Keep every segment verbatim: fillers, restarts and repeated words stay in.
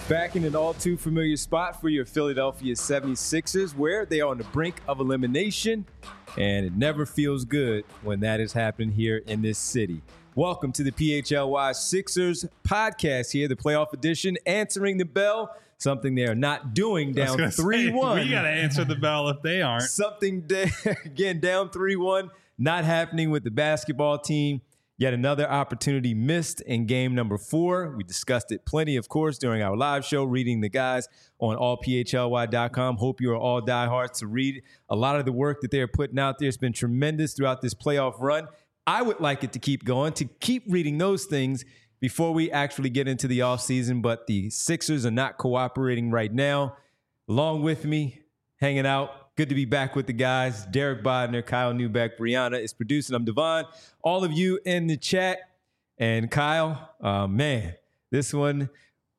Back in an all too familiar spot for your Philadelphia seventy-sixers, where they are on the brink of elimination, and it never feels good when that is happening here in this city. Welcome to the P H L Y Sixers podcast here, the playoff edition, answering the bell, something they are not doing down three one. We got to answer the bell if they aren't. Something, da- again, down three one, not happening with the basketball team. Yet another opportunity missed in game number four. We discussed it plenty, of course, during our live show, reading the guys on all p h l y dot com. Hope you are all diehards to read a lot of the work that they're putting out there. It's been tremendous throughout this playoff run. I would like it to keep going, to keep reading those things before we actually get into the offseason, but the Sixers are not cooperating right now. Along with me, hanging out, good to be back with the guys. Derek Bodner, Kyle Newbeck, Brianna is producing. I'm Devon. All of you in the chat. And Kyle, uh, man, this one,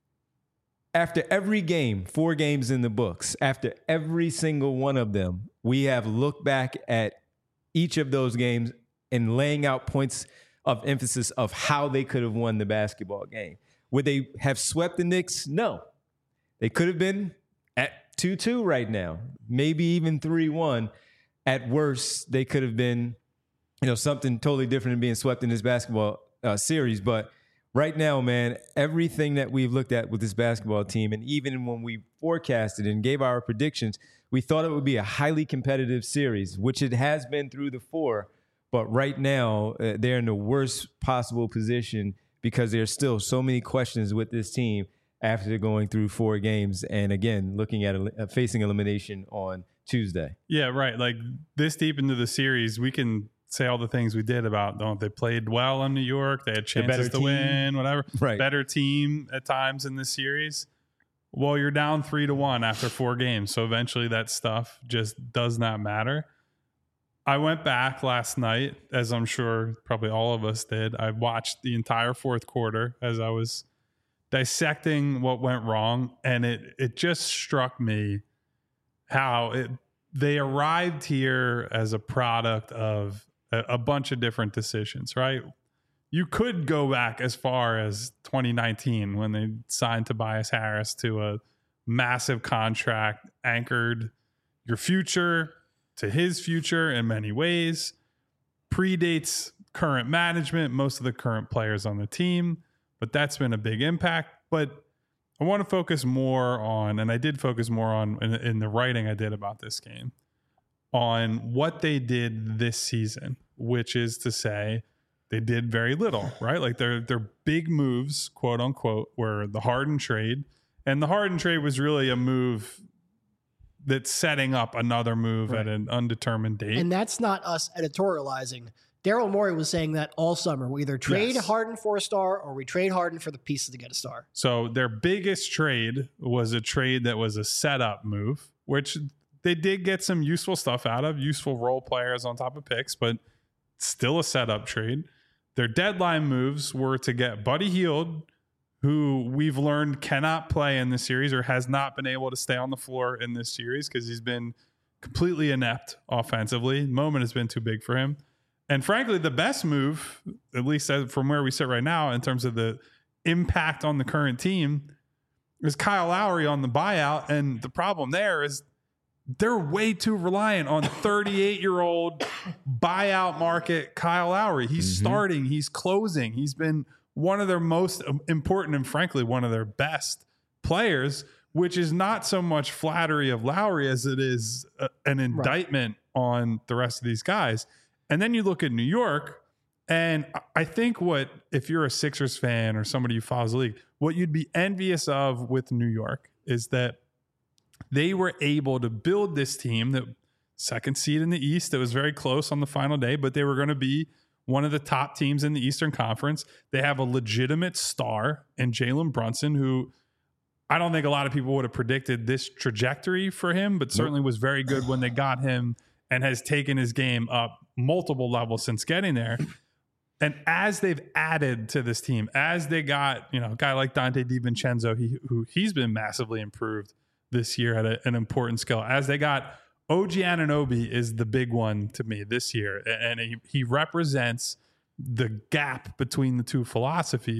after every game, four games in the books, after every single one of them, we have looked back at each of those games and laying out points of emphasis of how they could have won the basketball game. Would they have swept the Knicks? No. They could have been at two two right now, maybe even three one. At worst, they could have been, you know, something totally different than being swept in this basketball uh, series. But right now, man, everything that we've looked at with this basketball team, and even when we forecasted and gave our predictions, we thought it would be a highly competitive series, which it has been through the four. But right now, uh, they're in the worst possible position because there's still so many questions with this team after going through four games and, again, looking at uh, facing elimination on Tuesday. Yeah, right. Like, this deep into the series, we can say all the things we did about, don't they played well in New York, they had chances to team. win, whatever. Right. Better team at times in this series. Well, you're down three to one after four games, so eventually that stuff just does not matter. I went back last night, as I'm sure probably all of us did. I watched the entire fourth quarter as I was dissecting what went wrong, and it it just struck me how it they arrived here as a product of a, a bunch of different decisions, right? You could go back as far as twenty nineteen when they signed Tobias Harris to a massive contract, anchored your future to his future in many ways, predates current management, most of the current players on the team. But that's been a big impact. But I want to focus more on, and I did focus more on in, in the writing I did about this game, on what they did this season, which is to say they did very little, right? Like their their big moves, quote unquote, were the Harden trade. And the Harden trade was really a move that's setting up another move right at an undetermined date. And that's not us editorializing. Daryl Morey was saying that all summer. We either trade yes. Harden for a star or we trade Harden for the pieces to get a star. So their biggest trade was a trade that was a setup move, which they did get some useful stuff out of, useful role players on top of picks, but still a setup trade. Their deadline moves were to get Buddy Hield, who we've learned cannot play in this series or has not been able to stay on the floor in this series because he's been completely inept offensively. The moment has been too big for him. And frankly, the best move, at least from where we sit right now, in terms of the impact on the current team, is Kyle Lowry on the buyout. And the problem there is they're way too reliant on thirty-eight-year-old buyout market Kyle Lowry. He's mm-hmm. starting. He's closing. He's been one of their most important and, frankly, one of their best players, which is not so much flattery of Lowry as it is a, an indictment right. on the rest of these guys. And then you look at New York, and I think what, if you're a Sixers fan or somebody who follows the league, what you'd be envious of with New York is that they were able to build this team, that second seed in the East, that was very close on the final day, but they were going to be one of the top teams in the Eastern Conference. They have a legitimate star in Jalen Brunson, who I don't think a lot of people would have predicted this trajectory for him, but certainly was very good when they got him and has taken his game up multiple levels since getting there. And as they've added to this team, as they got, you know, a guy like Dante DiVincenzo, he, who he's been massively improved this year at a, an important skill. As they got O G Anunoby is the big one to me this year. And he, he represents the gap between the two philosophies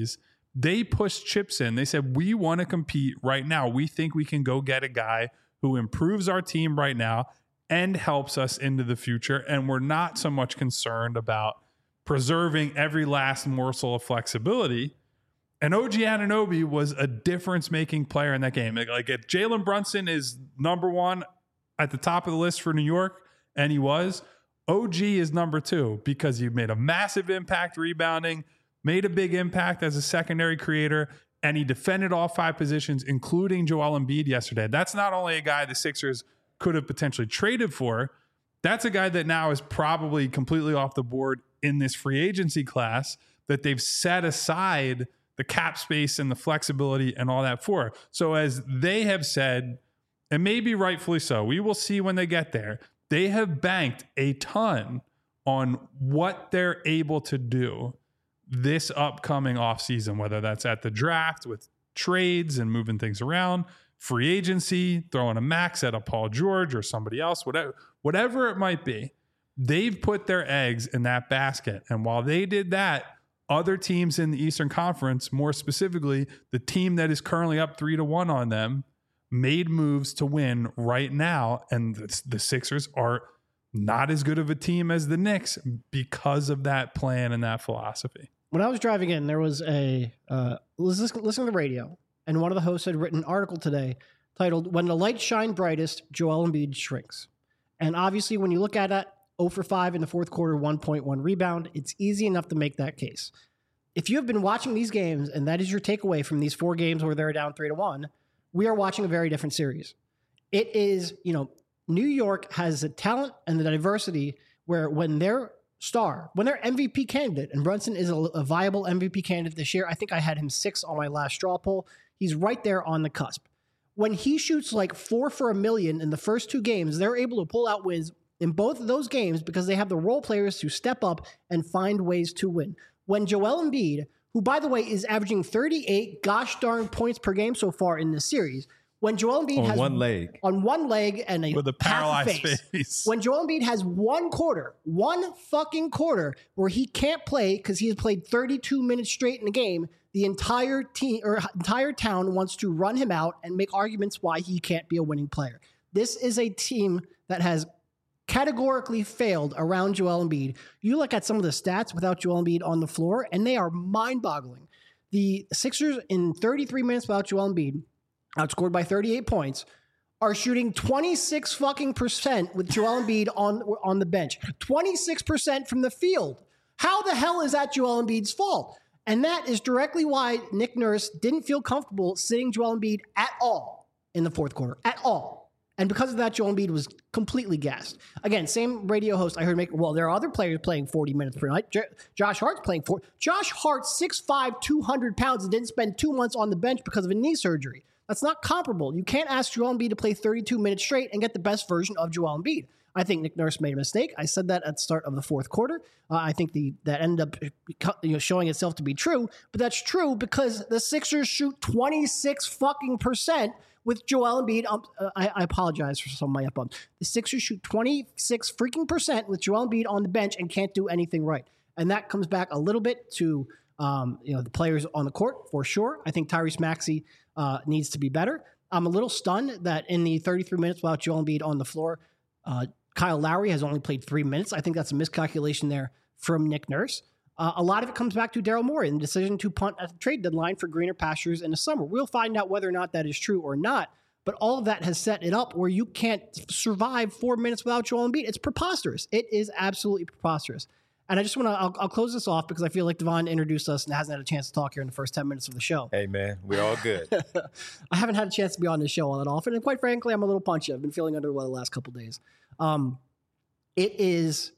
They pushed chips in. They said, we want to compete right now. We think we can go get a guy who improves our team right now and helps us into the future. And we're not so much concerned about preserving every last morsel of flexibility. And O G Anunoby was a difference-making player in that game. Like, if Jalen Brunson is number one at the top of the list for New York, and he was, O G is number two because he made a massive impact rebounding, made a big impact as a secondary creator, and he defended all five positions, including Joel Embiid yesterday. That's not only a guy the Sixers could have potentially traded for, that's a guy that now is probably completely off the board in this free agency class that they've set aside the cap space and the flexibility and all that for. So as they have said, and maybe rightfully so, we will see when they get there, they have banked a ton on what they're able to do this upcoming offseason, whether that's at the draft with trades and moving things around, free agency, throwing a max at a Paul George or somebody else, whatever, whatever it might be. They've put their eggs in that basket. And while they did that, other teams in the Eastern Conference, more specifically, the team that is currently up three to one on them, made moves to win right now. And the, the Sixers are not as good of a team as the Knicks because of that plan and that philosophy. When I was driving in, there was a, uh, listen, listen to the radio, and one of the hosts had written an article today titled, "When the Lights Shine Brightest, Joel Embiid Shrinks." And obviously, when you look at it, zero for five in the fourth quarter, one point one rebound, it's easy enough to make that case. If you have been watching these games, and that is your takeaway from these four games where they're down three to one, we are watching a very different series. It is, you know, New York has the talent and the diversity where when their star, when their M V P candidate, and Brunson is a, a viable M V P candidate this year. I think I had him six on my last straw poll. He's right there on the cusp. When he shoots like four for a million in the first two games, they're able to pull out wins in both of those games because they have the role players to step up and find ways to win. When Joel Embiid, who by the way is averaging thirty-eight gosh darn points per game so far in this series, when Joel Embiid on has one leg, on one leg and a, with a paralyzed face, face, when Joel Embiid has one quarter, one fucking quarter where he can't play because he has played thirty-two minutes straight in the game, the entire team or entire town wants to run him out and make arguments why he can't be a winning player. This is a team that has categorically failed around Joel Embiid. You look at some of the stats without Joel Embiid on the floor, and they are mind-boggling. The Sixers in thirty-three minutes without Joel Embiid, outscored by thirty-eight points, are shooting twenty-six fucking percent with Joel Embiid on, on the bench. twenty-six percent from the field. How the hell is that Joel Embiid's fault? And that is directly why Nick Nurse didn't feel comfortable sitting Joel Embiid at all in the fourth quarter. At all. And because of that, Joel Embiid was completely gassed. Again, same radio host I heard make, well, there are other players playing forty minutes per night. J- Josh Hart's playing four. Josh Hart, six five, two hundred pounds, and didn't spend two months on the bench because of a knee surgery. That's not comparable. You can't ask Joel Embiid to play thirty-two minutes straight and get the best version of Joel Embiid. I think Nick Nurse made a mistake. I said that at the start of the fourth quarter. Uh, I think the that ended up you know, showing itself to be true, but that's true because the Sixers shoot twenty-six fucking percent with Joel Embiid. Um, uh, I, I apologize for some of my up bumps. The Sixers shoot twenty-six freaking percent with Joel Embiid on the bench and can't do anything right. And that comes back a little bit to um, you know the players on the court for sure. I think Tyrese Maxey uh, needs to be better. I'm a little stunned that in the thirty-three minutes without Joel Embiid on the floor, uh, Kyle Lowry has only played three minutes. I think that's a miscalculation there from Nick Nurse. Uh, a lot of it comes back to Daryl Morey and the decision to punt at the trade deadline for greener pastures in the summer. We'll find out whether or not that is true or not, but all of that has set it up where you can't survive four minutes without Joel Embiid. It's preposterous. It is absolutely preposterous. And I just want to, I'll, I'll close this off because I feel like Devon introduced us and hasn't had a chance to talk here in the first ten minutes of the show. Hey, man, we're all good. I haven't had a chance to be on this show all that often. And quite frankly, I'm a little punchy. I've been feeling under the weather the last couple of days. Um, it is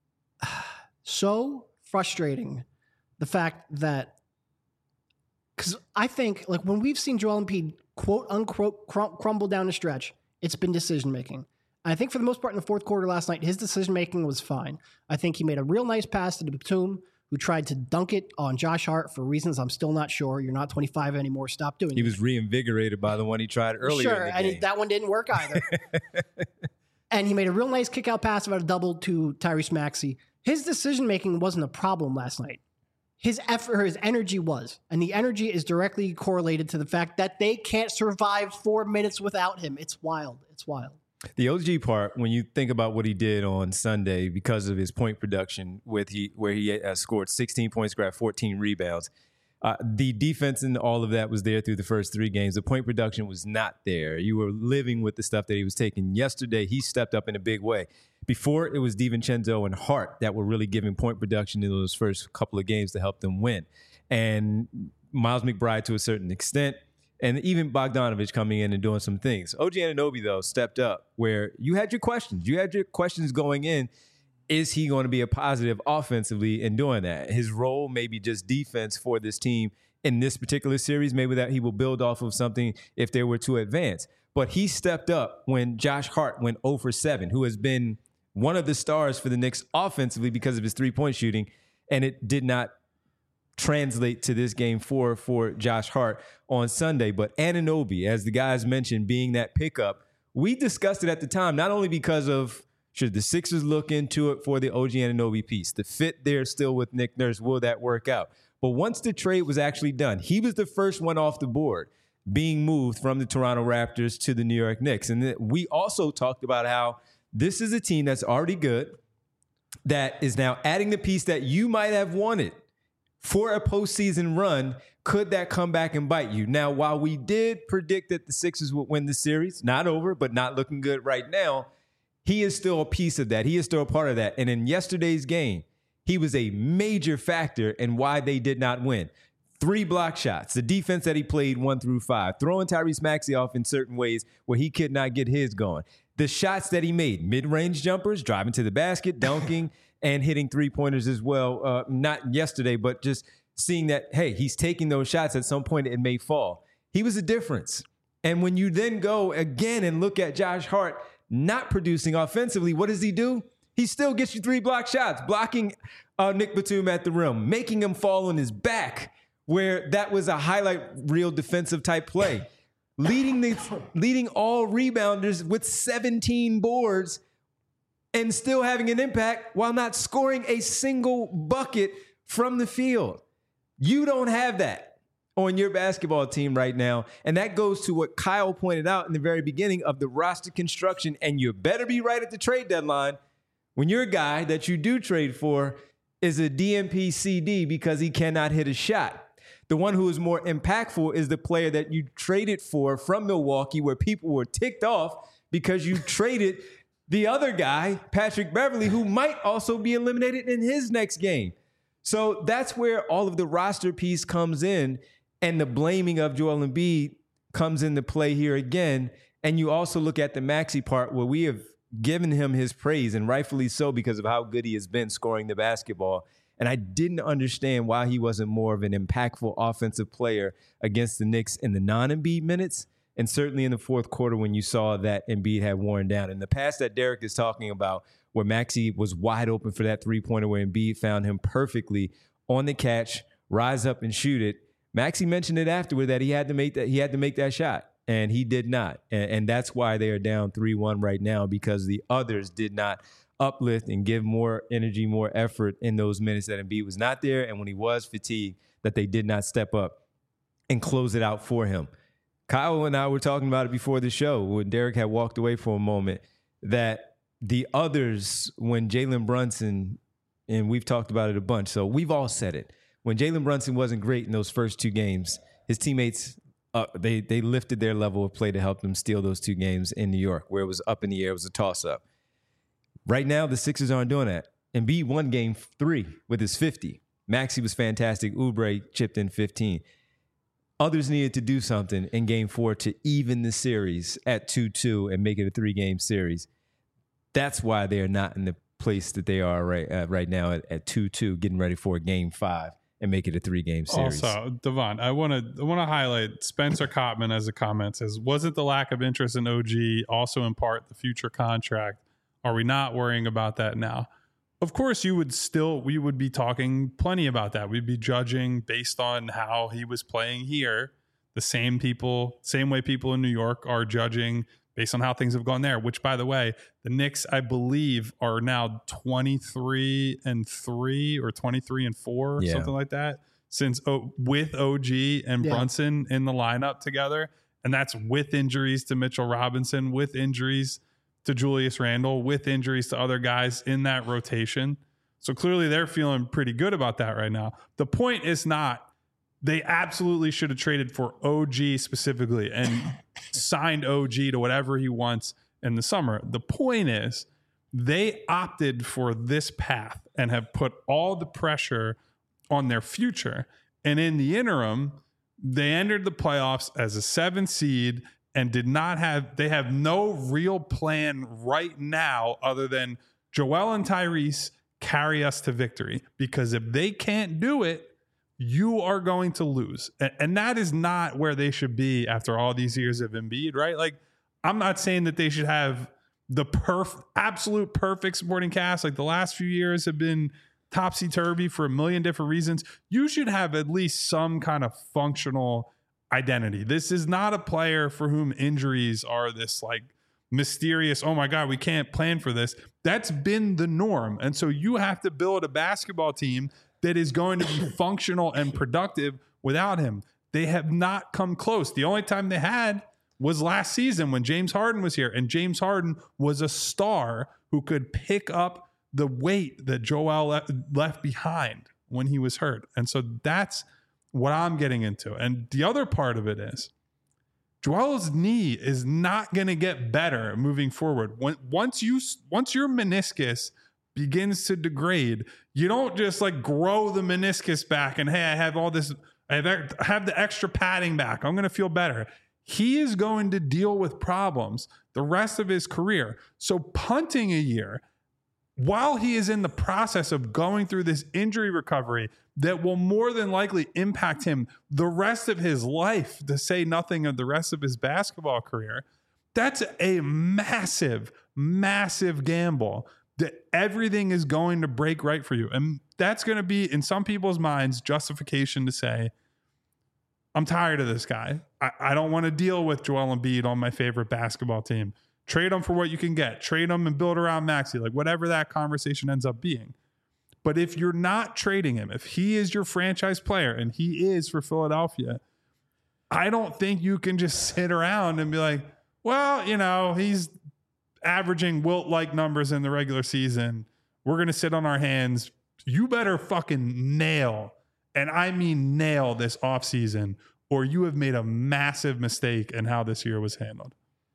so frustrating, the fact that, because I think, like, when we've seen Joel Embiid, quote unquote, crum- crumble down the stretch, it's been decision making. I think for the most part in the fourth quarter last night, his decision-making was fine. I think he made a real nice pass to Batum, who tried to dunk it on Josh Hart for reasons I'm still not sure. You're not twenty-five anymore. Stop doing it. He was reinvigorated by the one he tried earlier Sure, in the and game. he, that one didn't work either. And he made a real nice kick-out pass about a double to Tyrese Maxey. His decision-making wasn't a problem last night. his effort, his energy was. And the energy is directly correlated to the fact that they can't survive four minutes without him. It's wild. It's wild. The O G part, when you think about what he did on Sunday because of his point production, with he where he uh, scored sixteen points, grabbed fourteen rebounds, uh, the defense and all of that was there through the first three games. The point production was not there. You were living with the stuff that he was taking. Yesterday, he stepped up in a big way. Before, it was DiVincenzo and Hart that were really giving point production in those first couple of games to help them win. And Miles McBride to a certain extent. And even Bogdanovich coming in and doing some things. O G Anunoby, though, stepped up where you had your questions. You had your questions going in. Is he going to be a positive offensively in doing that? His role may be just defense for this team in this particular series. Maybe that he will build off of something if they were to advance. But he stepped up when Josh Hart went zero for seven, who has been one of the stars for the Knicks offensively because of his three-point shooting, and it did not translate to this game four for Josh Hart on Sunday. But Anunoby, as the guys mentioned, being that pickup, we discussed it at the time, not only because of should the Sixers look into it for the O G Anunoby piece, the fit there still with Nick Nurse, will that work out? But once the trade was actually done, he was the first one off the board being moved from the Toronto Raptors to the New York Knicks. And we also talked about how this is a team that's already good, that is now adding the piece that you might have wanted for a postseason run. Could that come back and bite you? Now, while we did predict that the Sixers would win the series, not over, but not looking good right now, he is still a piece of that. He is still a part of that. And in yesterday's game, he was a major factor in why they did not win. Three block shots, the defense that he played one through five, throwing Tyrese Maxey off in certain ways where he could not get his going. The shots that he made, mid-range jumpers, driving to the basket, dunking, and hitting three-pointers as well. Uh, not yesterday, but just seeing that, hey, he's taking those shots. At some point, it may fall. He was a difference. And when you then go again and look at Josh Hart not producing offensively, what does he do? He still gets you three block shots, blocking uh, Nick Batum at the rim, making him fall on his back, where that was a highlight reel defensive type play. leading the leading all rebounders with seventeen boards and still having an impact while not scoring a single bucket from the field. You don't have that on your basketball team right now. And that goes to what Kyle pointed out in the very beginning of the roster construction. And you better be right at the trade deadline when your guy that you do trade for is a D M P C D because he cannot hit a shot. The one who is more impactful is the player that you traded for from Milwaukee, where people were ticked off because you traded the other guy, Patrick Beverley, who might also be eliminated in his next game. So that's where all of the roster piece comes in, and the blaming of Joel Embiid comes into play here again. And you also look at the Maxey part, where we have given him his praise, and rightfully so, because of how good he has been scoring the basketball. And I didn't understand why he wasn't more of an impactful offensive player against the Knicks in the non-Embiid minutes, and certainly in the fourth quarter when you saw that Embiid had worn down. In the pass that Derek is talking about, where Maxey was wide open for that three-pointer where Embiid found him perfectly on the catch, rise up and shoot it, Maxey mentioned it afterward that he had to make that he had to make that shot, and he did not. And, and that's why they are down three one right now, because the others did not uplift and give more energy, more effort in those minutes that Embiid was not there, and when he was fatigued, that they did not step up and close it out for him. Kyle and I were talking about it before the show when Derek had walked away for a moment, that the others, when Jalen Brunson, and we've talked about it a bunch, so we've all said it, when Jalen Brunson wasn't great in those first two games, his teammates, uh, they they lifted their level of play to help them steal those two games in New York, where it was up in the air, it was a toss-up. Right now, the Sixers aren't doing that. Embiid won game three with his fifty. Maxey was fantastic. Oubre chipped in fifteen. Others needed to do something in game four to even the series at two two and make it a three-game series. That's why they are not in the place that they are right uh, right now at, at two two, getting ready for game five and make it a three-game series. Also, Devon, I want to I want to highlight Spencer Cottman as a comment says, wasn't the lack of interest in O G also in part the future contract? Are we not worrying about that now? Of course, you would still, we would be talking plenty about that. We'd be judging based on how he was playing here. The same people, same way people in New York are judging based on how things have gone there, which, by the way, the Knicks, I believe, are now twenty-three and three or twenty-three and four or Yeah. something like that since oh, with O G and Yeah. Brunson in the lineup together. And that's with injuries to Mitchell Robinson, with injuries to Julius Randle, with injuries to other guys in that rotation. So clearly they're feeling pretty good about that right now. The point is not they absolutely should have traded for O G specifically and signed O G to whatever he wants in the summer. The point is they opted for this path and have put all the pressure on their future. And in the interim, they entered the playoffs as a seven seed and did not have, they have no real plan right now other than Joel and Tyrese carry us to victory. Because if they can't do it, you are going to lose. And, and that is not where they should be after all these years of Embiid, right? Like, I'm not saying that they should have the perf, absolute perfect supporting cast. Like the last few years have been topsy-turvy for a million different reasons. You should have at least some kind of functional identity. This is not a player for whom injuries are this like mysterious, oh my God, we can't plan for this. That's been the norm. And so you have to build a basketball team that is going to be functional and productive without him. They have not come close. The only time they had was last season when James Harden was here, and James Harden was a star who could pick up the weight that Joel le- left behind when he was hurt. And so that's what I'm getting into. And the other part of it is Joel's knee is not going to get better moving forward. When, once you, once your meniscus begins to degrade, you don't just like grow the meniscus back and, hey, I have all this, I have, I have the extra padding back, I'm going to feel better. He is going to deal with problems the rest of his career. So punting a year while he is in the process of going through this injury recovery that will more than likely impact him the rest of his life, to say nothing of the rest of his basketball career, that's a massive, massive gamble that everything is going to break right for you. And that's going to be, in some people's minds, justification to say, I'm tired of this guy. I, I don't want to deal with Joel Embiid on my favorite basketball team. Trade him for what you can get. Trade him and build around Maxey, like whatever that conversation ends up being. But if you're not trading him, if he is your franchise player, and he is for Philadelphia, I don't think you can just sit around and be like, well, you know, he's averaging Wilt-like numbers in the regular season. We're going to sit on our hands. You better fucking nail, and I mean nail, this offseason, or you have made a massive mistake in how this year was handled.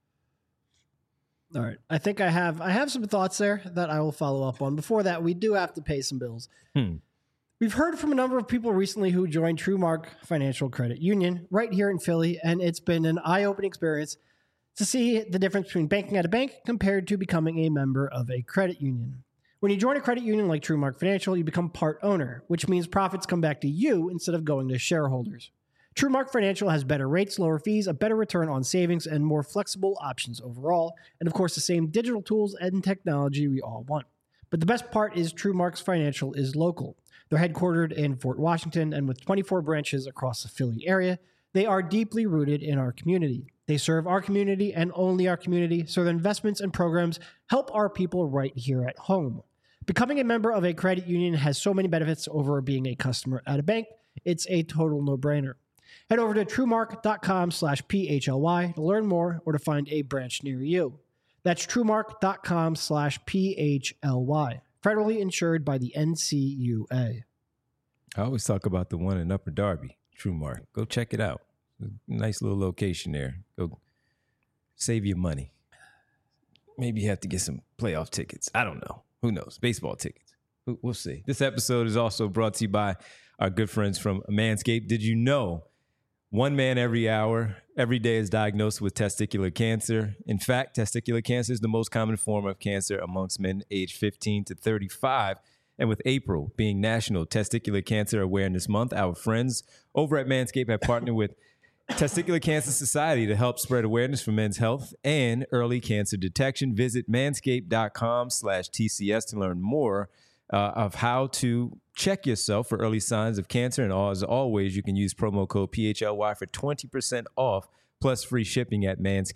All right. I think I have I have some thoughts there that I will follow up on. Before that, we do have to pay some bills. Hmm. We've heard from a number of people recently who joined TrueMark Financial Credit Union right here in Philly, and it's been an eye-opening experience to see the difference between banking at a bank compared to becoming a member of a credit union. When you join a credit union like TrueMark Financial, you become part owner, which means profits come back to you instead of going to shareholders. TrueMark Financial has better rates, lower fees, a better return on savings, and more flexible options overall. And of course, the same digital tools and technology we all want. But the best part is TrueMark's Financial is local. They're headquartered in Fort Washington, and with twenty-four branches across the Philly area, they are deeply rooted in our community. They serve our community and only our community, so their investments and programs help our people right here at home. Becoming a member of a credit union has so many benefits over being a customer at a bank. It's a total no-brainer. Head over to truemark.com slash PHLY to learn more or to find a branch near you. That's truemark.com slash PHLY. Federally insured by the N C U A. I always talk about the one in Upper Darby, TrueMark. Go check it out. Nice little location there. Go save your money. Maybe you have to get some playoff tickets. I don't know. Who knows? Baseball tickets. We'll see. This episode is also brought to you by our good friends from Manscaped. Did you know one man every hour, every day is diagnosed with testicular cancer? In fact, testicular cancer is the most common form of cancer amongst men aged fifteen to thirty-five. And with April being National Testicular Cancer Awareness Month, our friends over at Manscaped have partnered with Testicular Cancer Society to help spread awareness for men's health and early cancer detection. Visit manscaped.com slash TCS to learn more uh, of how to check yourself for early signs of cancer. And as always, you can use promo code P H L Y for twenty percent off plus free shipping at manscaped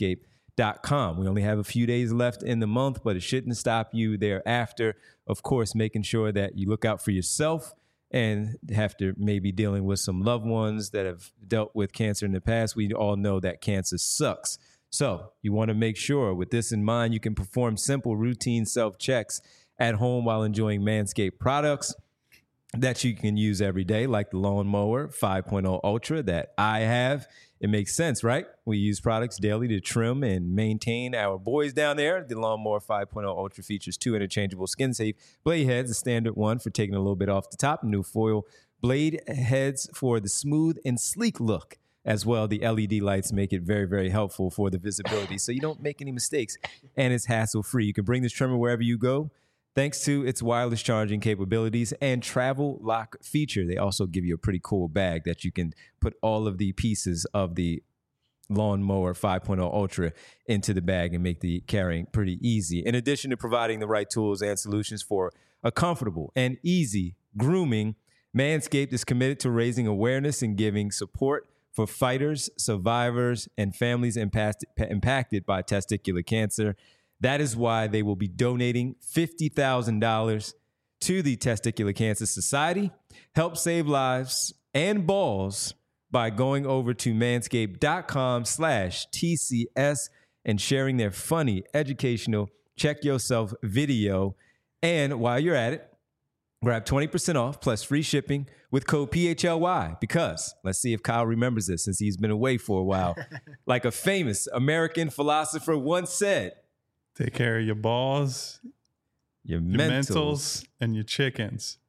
dot com. We only have a few days left in the month, but it shouldn't stop you thereafter. Of course, making sure that you look out for yourself and after maybe dealing with some loved ones that have dealt with cancer in the past. We all know that cancer sucks. So you want to make sure with this in mind, you can perform simple routine self-checks at home while enjoying Manscaped products that you can use every day, like the Lawnmower five point oh Ultra that I have. It makes sense, right? We use products daily to trim and maintain our boys down there. The Lawnmower five point oh Ultra features two interchangeable skin-safe blade heads, a standard one for taking a little bit off the top, new foil blade heads for the smooth and sleek look. As well, the L E D lights make it very, very helpful for the visibility, so you don't make any mistakes, and it's hassle-free. You can bring this trimmer wherever you go, thanks to its wireless charging capabilities and travel lock feature. They also give you a pretty cool bag that you can put all of the pieces of the Lawnmower five point oh Ultra into the bag and make the carrying pretty easy. In addition to providing the right tools and solutions for a comfortable and easy grooming, Manscaped is committed to raising awareness and giving support for fighters, survivors, and families impact, impacted by testicular cancer. That is why they will be donating fifty thousand dollars to the Testicular Cancer Society. Help save lives and balls by going over to manscaped.com slash TCS and sharing their funny, educational, check yourself video. And while you're at it, grab twenty percent off plus free shipping with code P H L Y because, let's see if Kyle remembers this since he's been away for a while. Like a famous American philosopher once said, take care of your balls, your, your mentals. mentals, and your chickens.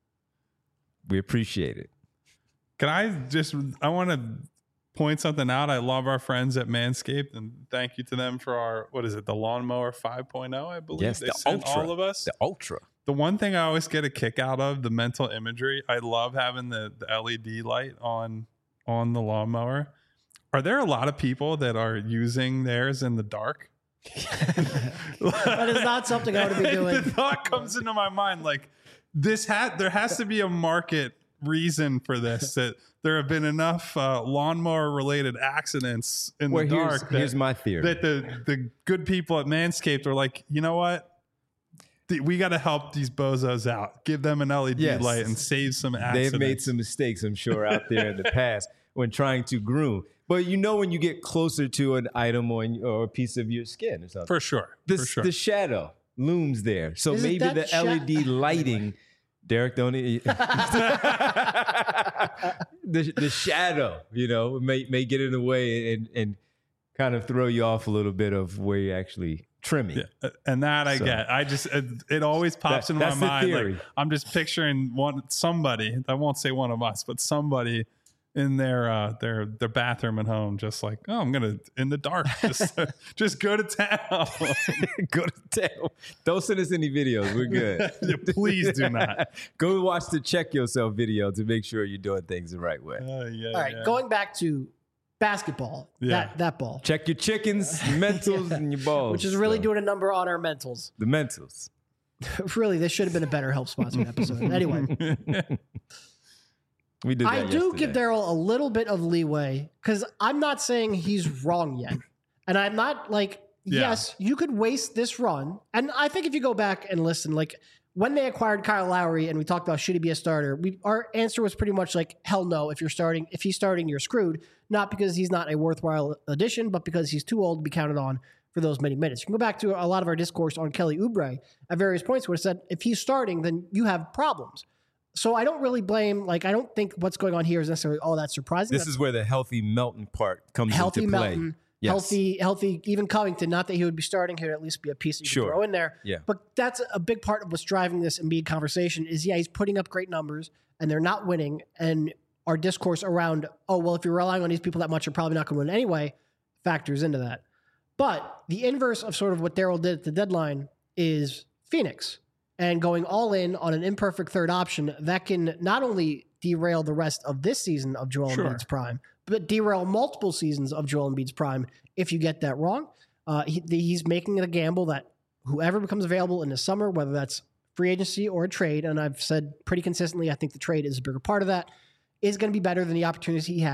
We appreciate it. Can I just, I want to point something out. I love our friends at Manscaped, and thank you to them for our, what is it, the Lawnmower five point oh, I believe. Yes, they the sent Ultra. all of us. The Ultra. The one thing I always get a kick out of, the mental imagery, I love having the, the L E D light on on the lawnmower. Are there a lot of people that are using theirs in the dark? That is not something I would be doing. The thought comes into my mind, like, this hat, there has to be a market reason for this, that there have been enough uh, lawnmower related accidents in Well, the here's, dark that, here's my theory. that the, the good people at Manscaped are like, you know what? Th- We got to help these bozos out. Give them an L E D Yes. light and save some accidents. They've made some mistakes, I'm sure, out there in the past when trying to groom. But you know when you get closer to an item or, or a piece of your skin or something. For sure. the, for sure. the shadow looms there. So Isn't maybe that the sha- L E D lighting, Derek, don't eat. the, the shadow, you know, may, may get in the way and, and kind of throw you off a little bit of where you're actually trimming. Yeah, uh, and that I So- get. I just it, it always pops That- into my that's the mind. theory. Like, I'm just picturing one somebody. I won't say one of us, but somebody in their uh, their their bathroom at home, just like, oh, I'm gonna in the dark, just just go to town. Go to town. Don't send us any videos. We're good. Please do not. Go watch the check yourself video to make sure you're doing things the right way. Uh, yeah, All right, yeah. going back to basketball, Yeah. that that ball, Check your chickens, mentals, and your balls. which is really So, doing a number on our mentals. the mentals. Really, this should have been a better help sponsored episode. Anyway, We did that I do give yesterday. Daryl a little bit of leeway because I'm not saying he's wrong yet. And I'm not like, Yeah. yes, you could waste this run. And I think if you go back and listen, like when they acquired Kyle Lowry and we talked about should he be a starter, we, our answer was pretty much like, hell no. If you're starting, if he's starting, you're screwed. Not because he's not a worthwhile addition, but because he's too old to be counted on for those many minutes. You can go back to a lot of our discourse on Kelly Oubre at various points where it said, if he's starting, then you have problems. So I don't really blame, like, I don't think what's going on here is necessarily all that surprising. This is where the healthy Melton part comes healthy into play. Melton, Yes. healthy, healthy, even Covington, not that he would be starting here, at least be a piece that you Sure. can throw in there. Yeah. But that's a big part of what's driving this Embiid conversation is, yeah, he's putting up great numbers and they're not winning. And our discourse around, oh, well, if you're relying on these people that much, you're probably not going to win anyway, factors into that. But the inverse of sort of what Daryl did at the deadline is Phoenix and going all in on an imperfect third option that can not only derail the rest of this season of Joel Sure. Embiid's prime, but derail multiple seasons of Joel Embiid's prime if you get that wrong. Uh, he, he's making a gamble that whoever becomes available in the summer, whether that's free agency or a trade, and I've said pretty consistently, I think the trade is a bigger part of that, is going to be better than the opportunities he had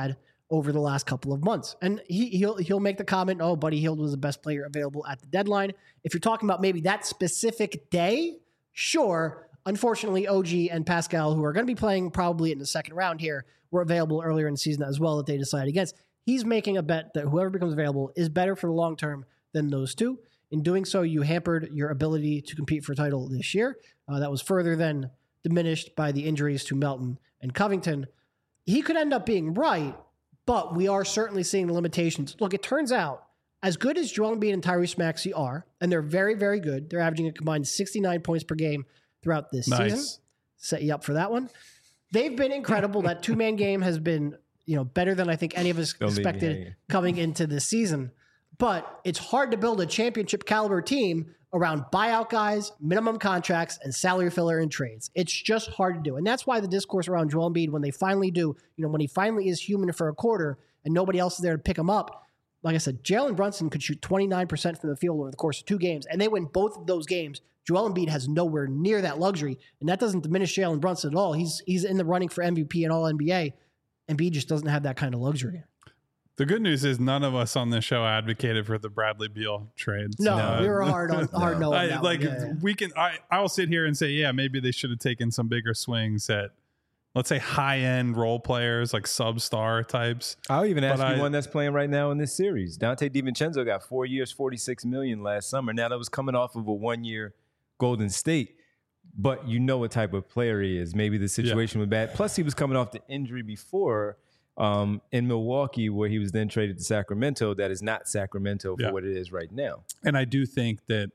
over the last couple of months. And he, he'll he'll make the comment, oh, Buddy Hield was the best player available at the deadline. If you're talking about maybe that specific day, sure. Unfortunately, O G and Pascal, who are going to be playing probably in the second round here, were available earlier in the season as well that they decided against. He's making a bet that whoever becomes available is better for the long term than those two. In doing so, you hampered your ability to compete for a title this year. Uh, that was further then diminished by the injuries to Melton and Covington. He could end up being right, but we are certainly seeing the limitations. Look, it turns out, as good as Joel Embiid and Tyrese Maxey are, and they're very, very good, they're averaging a combined sixty-nine points per game throughout this nice. season. Set you up for that one. They've been incredible. That two-man game has been, you know, better than I think any of us Don't expected coming into this season. But it's hard to build a championship caliber team around buyout guys, minimum contracts, and salary filler and trades. It's just hard to do. And that's why the discourse around Joel Embiid, when they finally do, you know, when he finally is human for a quarter and nobody else is there to pick him up, like I said, Jalen Brunson could shoot twenty-nine percent from the field over the course of two games, and they win both of those games. Joel Embiid has nowhere near that luxury, and that doesn't diminish Jalen Brunson at all. He's he's in the running for M V P and all N B A. Embiid just doesn't have that kind of luxury. The good news is none of us on this show advocated for the Bradley Beal trade. No, So, we were hard on hard no. on I, that like one. Yeah, yeah. we can, I I'll sit here and say, yeah, maybe they should have taken some bigger swings at, let's say, high end role players like sub-star types. I'll even ask But you I- one that's playing right now in this series. Dante DiVincenzo got four years, forty-six million last summer. Now that was coming off of a one-year Golden State, but you know what type of player he is. Maybe the situation was bad. Plus, he was coming off the injury before um, in Milwaukee, where he was then traded to Sacramento. That is not Sacramento for Yeah. what it is right now. And I do think that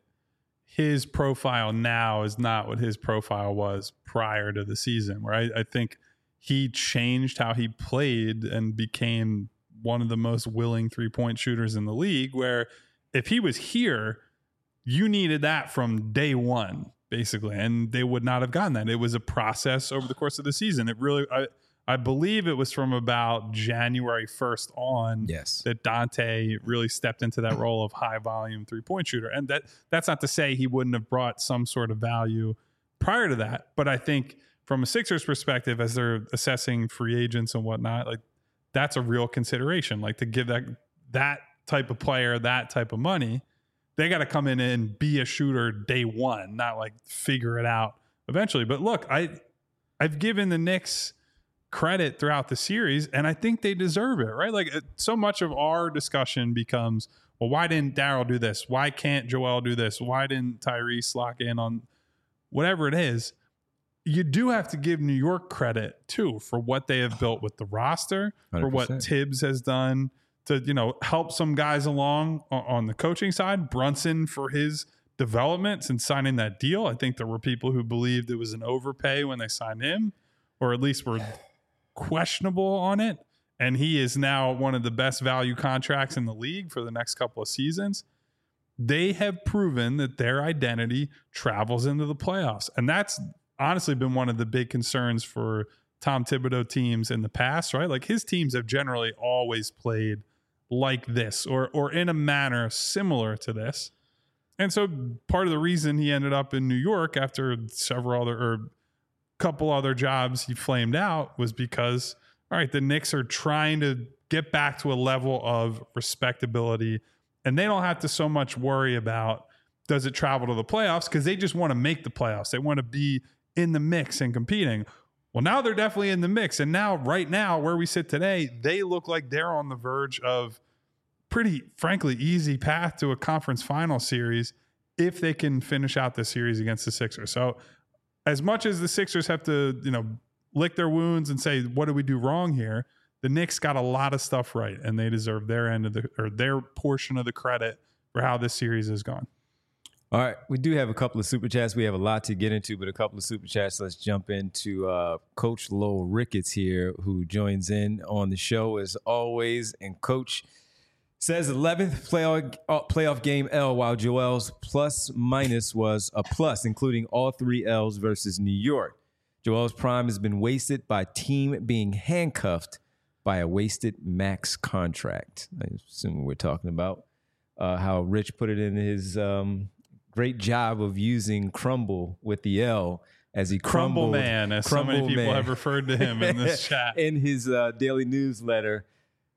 his profile now is not what his profile was prior to the season, where I, I think he changed how he played and became one of the most willing three-point shooters in the league, where if he was here, you needed that from day one, basically, and they would not have gotten that. It was a process over the course of the season. It really, I, I believe it was from about January first on Yes. that Dante really stepped into that role of high volume three point shooter. And that that's not to say he wouldn't have brought some sort of value prior to that. But I think from a Sixers perspective, as they're assessing free agents and whatnot, like that's a real consideration. Like to give that that type of player that type of money, they got to come in and be a shooter day one, not like figure it out eventually. But look, I I've given the Knicks credit throughout the series, and I think they deserve it, right? Like it, so much of our discussion becomes, well, why didn't Daryl do this? Why can't Joel do this? Why didn't Tyrese lock in on whatever it is? You do have to give New York credit too for what they have built with the roster, one for hundred what percent. Tibbs has done to, you know, help some guys along on, on the coaching side. Brunson for his development and signing that deal. I think there were people who believed it was an overpay when they signed him, or at least were questionable on it, and he is now one of the best value contracts in the league for the next couple of seasons. They have proven that their identity travels into the playoffs, and that's honestly been one of the big concerns for Tom Thibodeau teams in the past, right? Like his teams have generally always played like this or or in a manner similar to this. And so part of the reason he ended up in New York after several other or couple other jobs he flamed out was because, all right, the Knicks are trying to get back to a level of respectability, and they don't have to so much worry about does it travel to the playoffs, because they just want to make the playoffs. They want to be in the mix and competing. Well, now they're definitely in the mix, and now right now where we sit today, they look like they're on the verge of pretty frankly easy path to a conference final series if they can finish out the series against the Sixers. So as much as the Sixers have to, you know, lick their wounds and say, what did we do wrong here? The Knicks got a lot of stuff right, and they deserve their end of the, or their portion of the credit for how this series has gone. All right, we do have a couple of super chats. We have a lot to get into, but a couple of super chats. Let's jump into uh, Coach Lowell Ricketts here, who joins in on the show as always. And Coach says eleventh playoff, uh, playoff game L, while Joel's plus minus was a plus, including all three L's versus New York. Joel's prime has been wasted by team being handcuffed by a wasted max contract. I assume we're talking about uh, how Rich put it in his um, great job of using crumble with the L as he Crumble crumbled. Man, as so many Crumble people Man. have referred to him in this chat. In his uh, daily newsletter.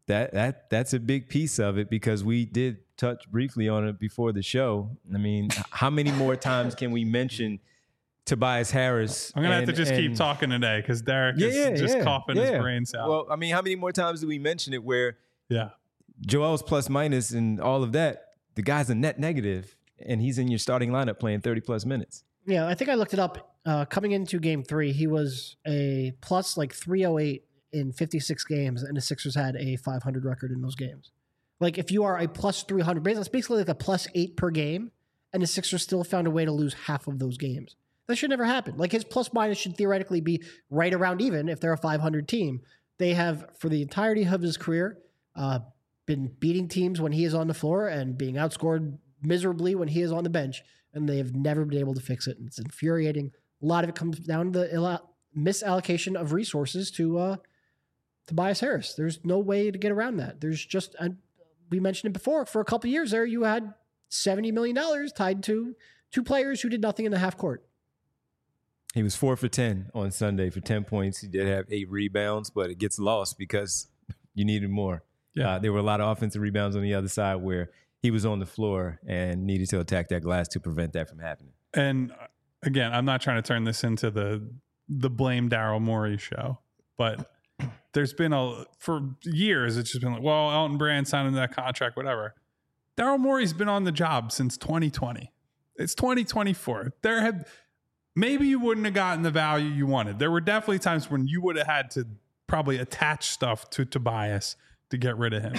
that that that's a big piece of it because we did touch briefly on it before the show. I mean, how many more times can we mention Tobias Harris? I'm gonna and, have to just and, keep talking today because Derek yeah, is yeah, just yeah, coughing yeah. his brains out. Well, I mean, how many more times do we mention it where yeah, Joel's plus minus and all of that, the guy's a net negative and he's in your starting lineup playing thirty plus minutes. Yeah, I think I looked it up. Uh, coming into game three, he was a plus like three oh eight in fifty-six games, and the Sixers had a five hundred record in those games. Like, if you are a plus three hundred, that's basically like a plus eight per game, and the Sixers still found a way to lose half of those games. That should never happen. Like, his plus minus should theoretically be right around even if they're a five hundred team. They have, for the entirety of his career, uh, been beating teams when he is on the floor and being outscored miserably when he is on the bench, and they have never been able to fix it. And it's infuriating. A lot of it comes down to the misallocation of resources to uh, Tobias Harris. There's no way to get around that. There's just, uh, we mentioned it before, for a couple of years there, you had seventy million dollars tied to two players who did nothing in the half court. He was four for ten on Sunday for ten points. He did have eight rebounds, but it gets lost because you needed more. Yeah. Uh, there were a lot of offensive rebounds on the other side where he was on the floor and needed to attack that glass to prevent that from happening. And again, I'm not trying to turn this into the the blame Daryl Morey show, but there's been a for years it's just been like, well, Elton Brand signed into that contract, whatever. Daryl Morey's been on the job since twenty twenty. It's twenty twenty-four. There have maybe you wouldn't have gotten the value you wanted. There were definitely times when you would have had to probably attach stuff to Tobias to get rid of him.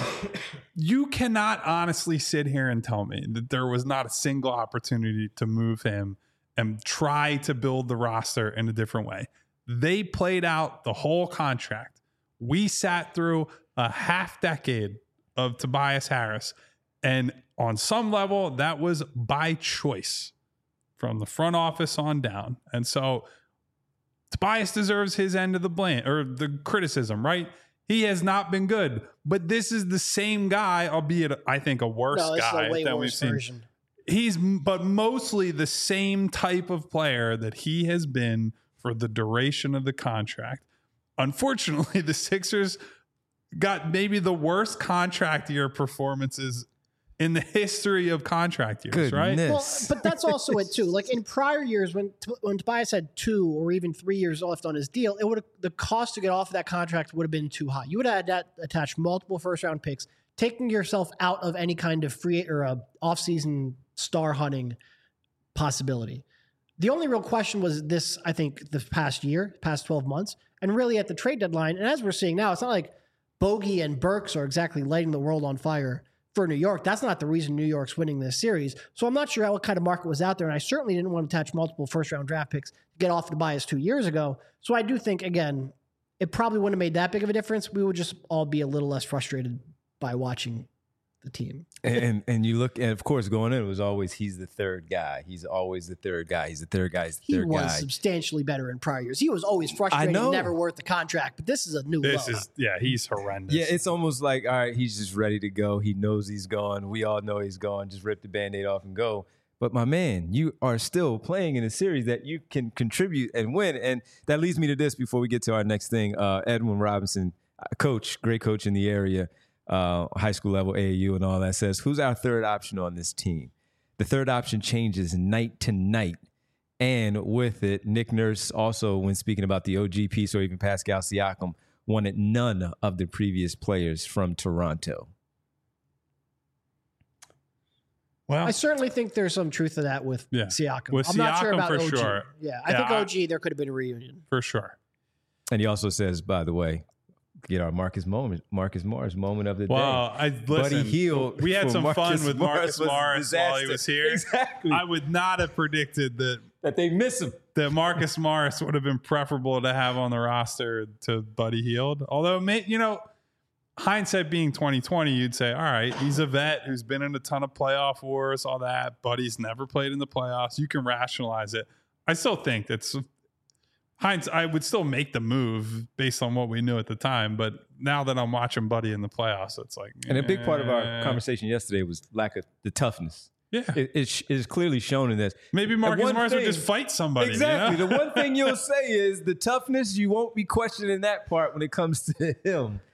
You cannot honestly sit here and tell me that there was not a single opportunity to move him and try to build the roster in a different way. They played out the whole contract. We sat through a half decade of Tobias Harris, and on some level, that was by choice from the front office on down. And so Tobias deserves his end of the blame or the criticism, right? He has not been good, but this is the same guy, albeit I think a worse no, this guy is a way than worse we've seen. version. He's, but mostly the same type of player that he has been for the duration of the contract. Unfortunately, the Sixers got maybe the worst contract year performances in the history of contract years, Goodness. right? Well, but that's also it too. Like in prior years, when when Tobias had two or even three years left on his deal, it would the cost to get off of that contract would have been too high. You would have had that attached multiple first round picks, taking yourself out of any kind of free or a offseason star hunting possibility. The only real question was this, I think, the past year, past twelve months, and really at the trade deadline. And as we're seeing now, it's not like Bogey and Burks are exactly lighting the world on fire for New York. That's not the reason New York's winning this series. So I'm not sure what kind of market was out there. And I certainly didn't want to attach multiple first round draft picks to get off the bias two years ago. So I do think, again, it probably wouldn't have made that big of a difference. We would just all be a little less frustrated by watching the team. and and you look, and of course, going in, it was always he's the third guy. He's always the third guy. He's the third guy. He's the He third was guy. substantially better in prior years. He was always frustrating, know. never worth the contract. But this is a new This low. is, yeah, he's horrendous. Yeah, it's almost like, all right, he's just ready to go. He knows he's gone. We all know he's gone. Just rip the Band-Aid off and go. But my man, you are still playing in a series that you can contribute and win. And that leads me to this before we get to our next thing. Uh, Edwin Robinson, coach, great coach in the area, uh, high school level, A A U and all that, says, who's our third option on this team? The third option changes night to night. And with it, Nick Nurse also, when speaking about the O G piece or even Pascal Siakam, wanted none of the previous players from Toronto. Well, I certainly think there's some truth to that with Yeah. Siakam. With I'm not sure Siakam about for O G. sure. Yeah, I Yeah, think I- O G, there could have been a reunion. for sure. And he also says, by the way, get our Marcus moment, Marcus Morris moment of the Well, day. I listen. Buddy Hield We had for some Marcus fun with Morris Marcus was a Morris while he disaster. was here. Exactly. I would not have predicted that that they miss him. that Marcus Morris would have been preferable to have on the roster to Buddy Hield. Although, may, you know, hindsight being twenty twenty, you'd say, all right, he's a vet who's been in a ton of playoff wars, all that. Buddy's never played in the playoffs. You can rationalize it. I still think that's hindsight. I would still make the move based on what we knew at the time. But now that I'm watching Buddy in the playoffs, it's like, And a big part of eh. our conversation yesterday was lack of the toughness. Yeah, It, it sh- is clearly shown in this. maybe Marcus one Morris would thing- just fight somebody. Exactly. You know? The one thing you'll say is the toughness, you won't be questioning that part when it comes to him.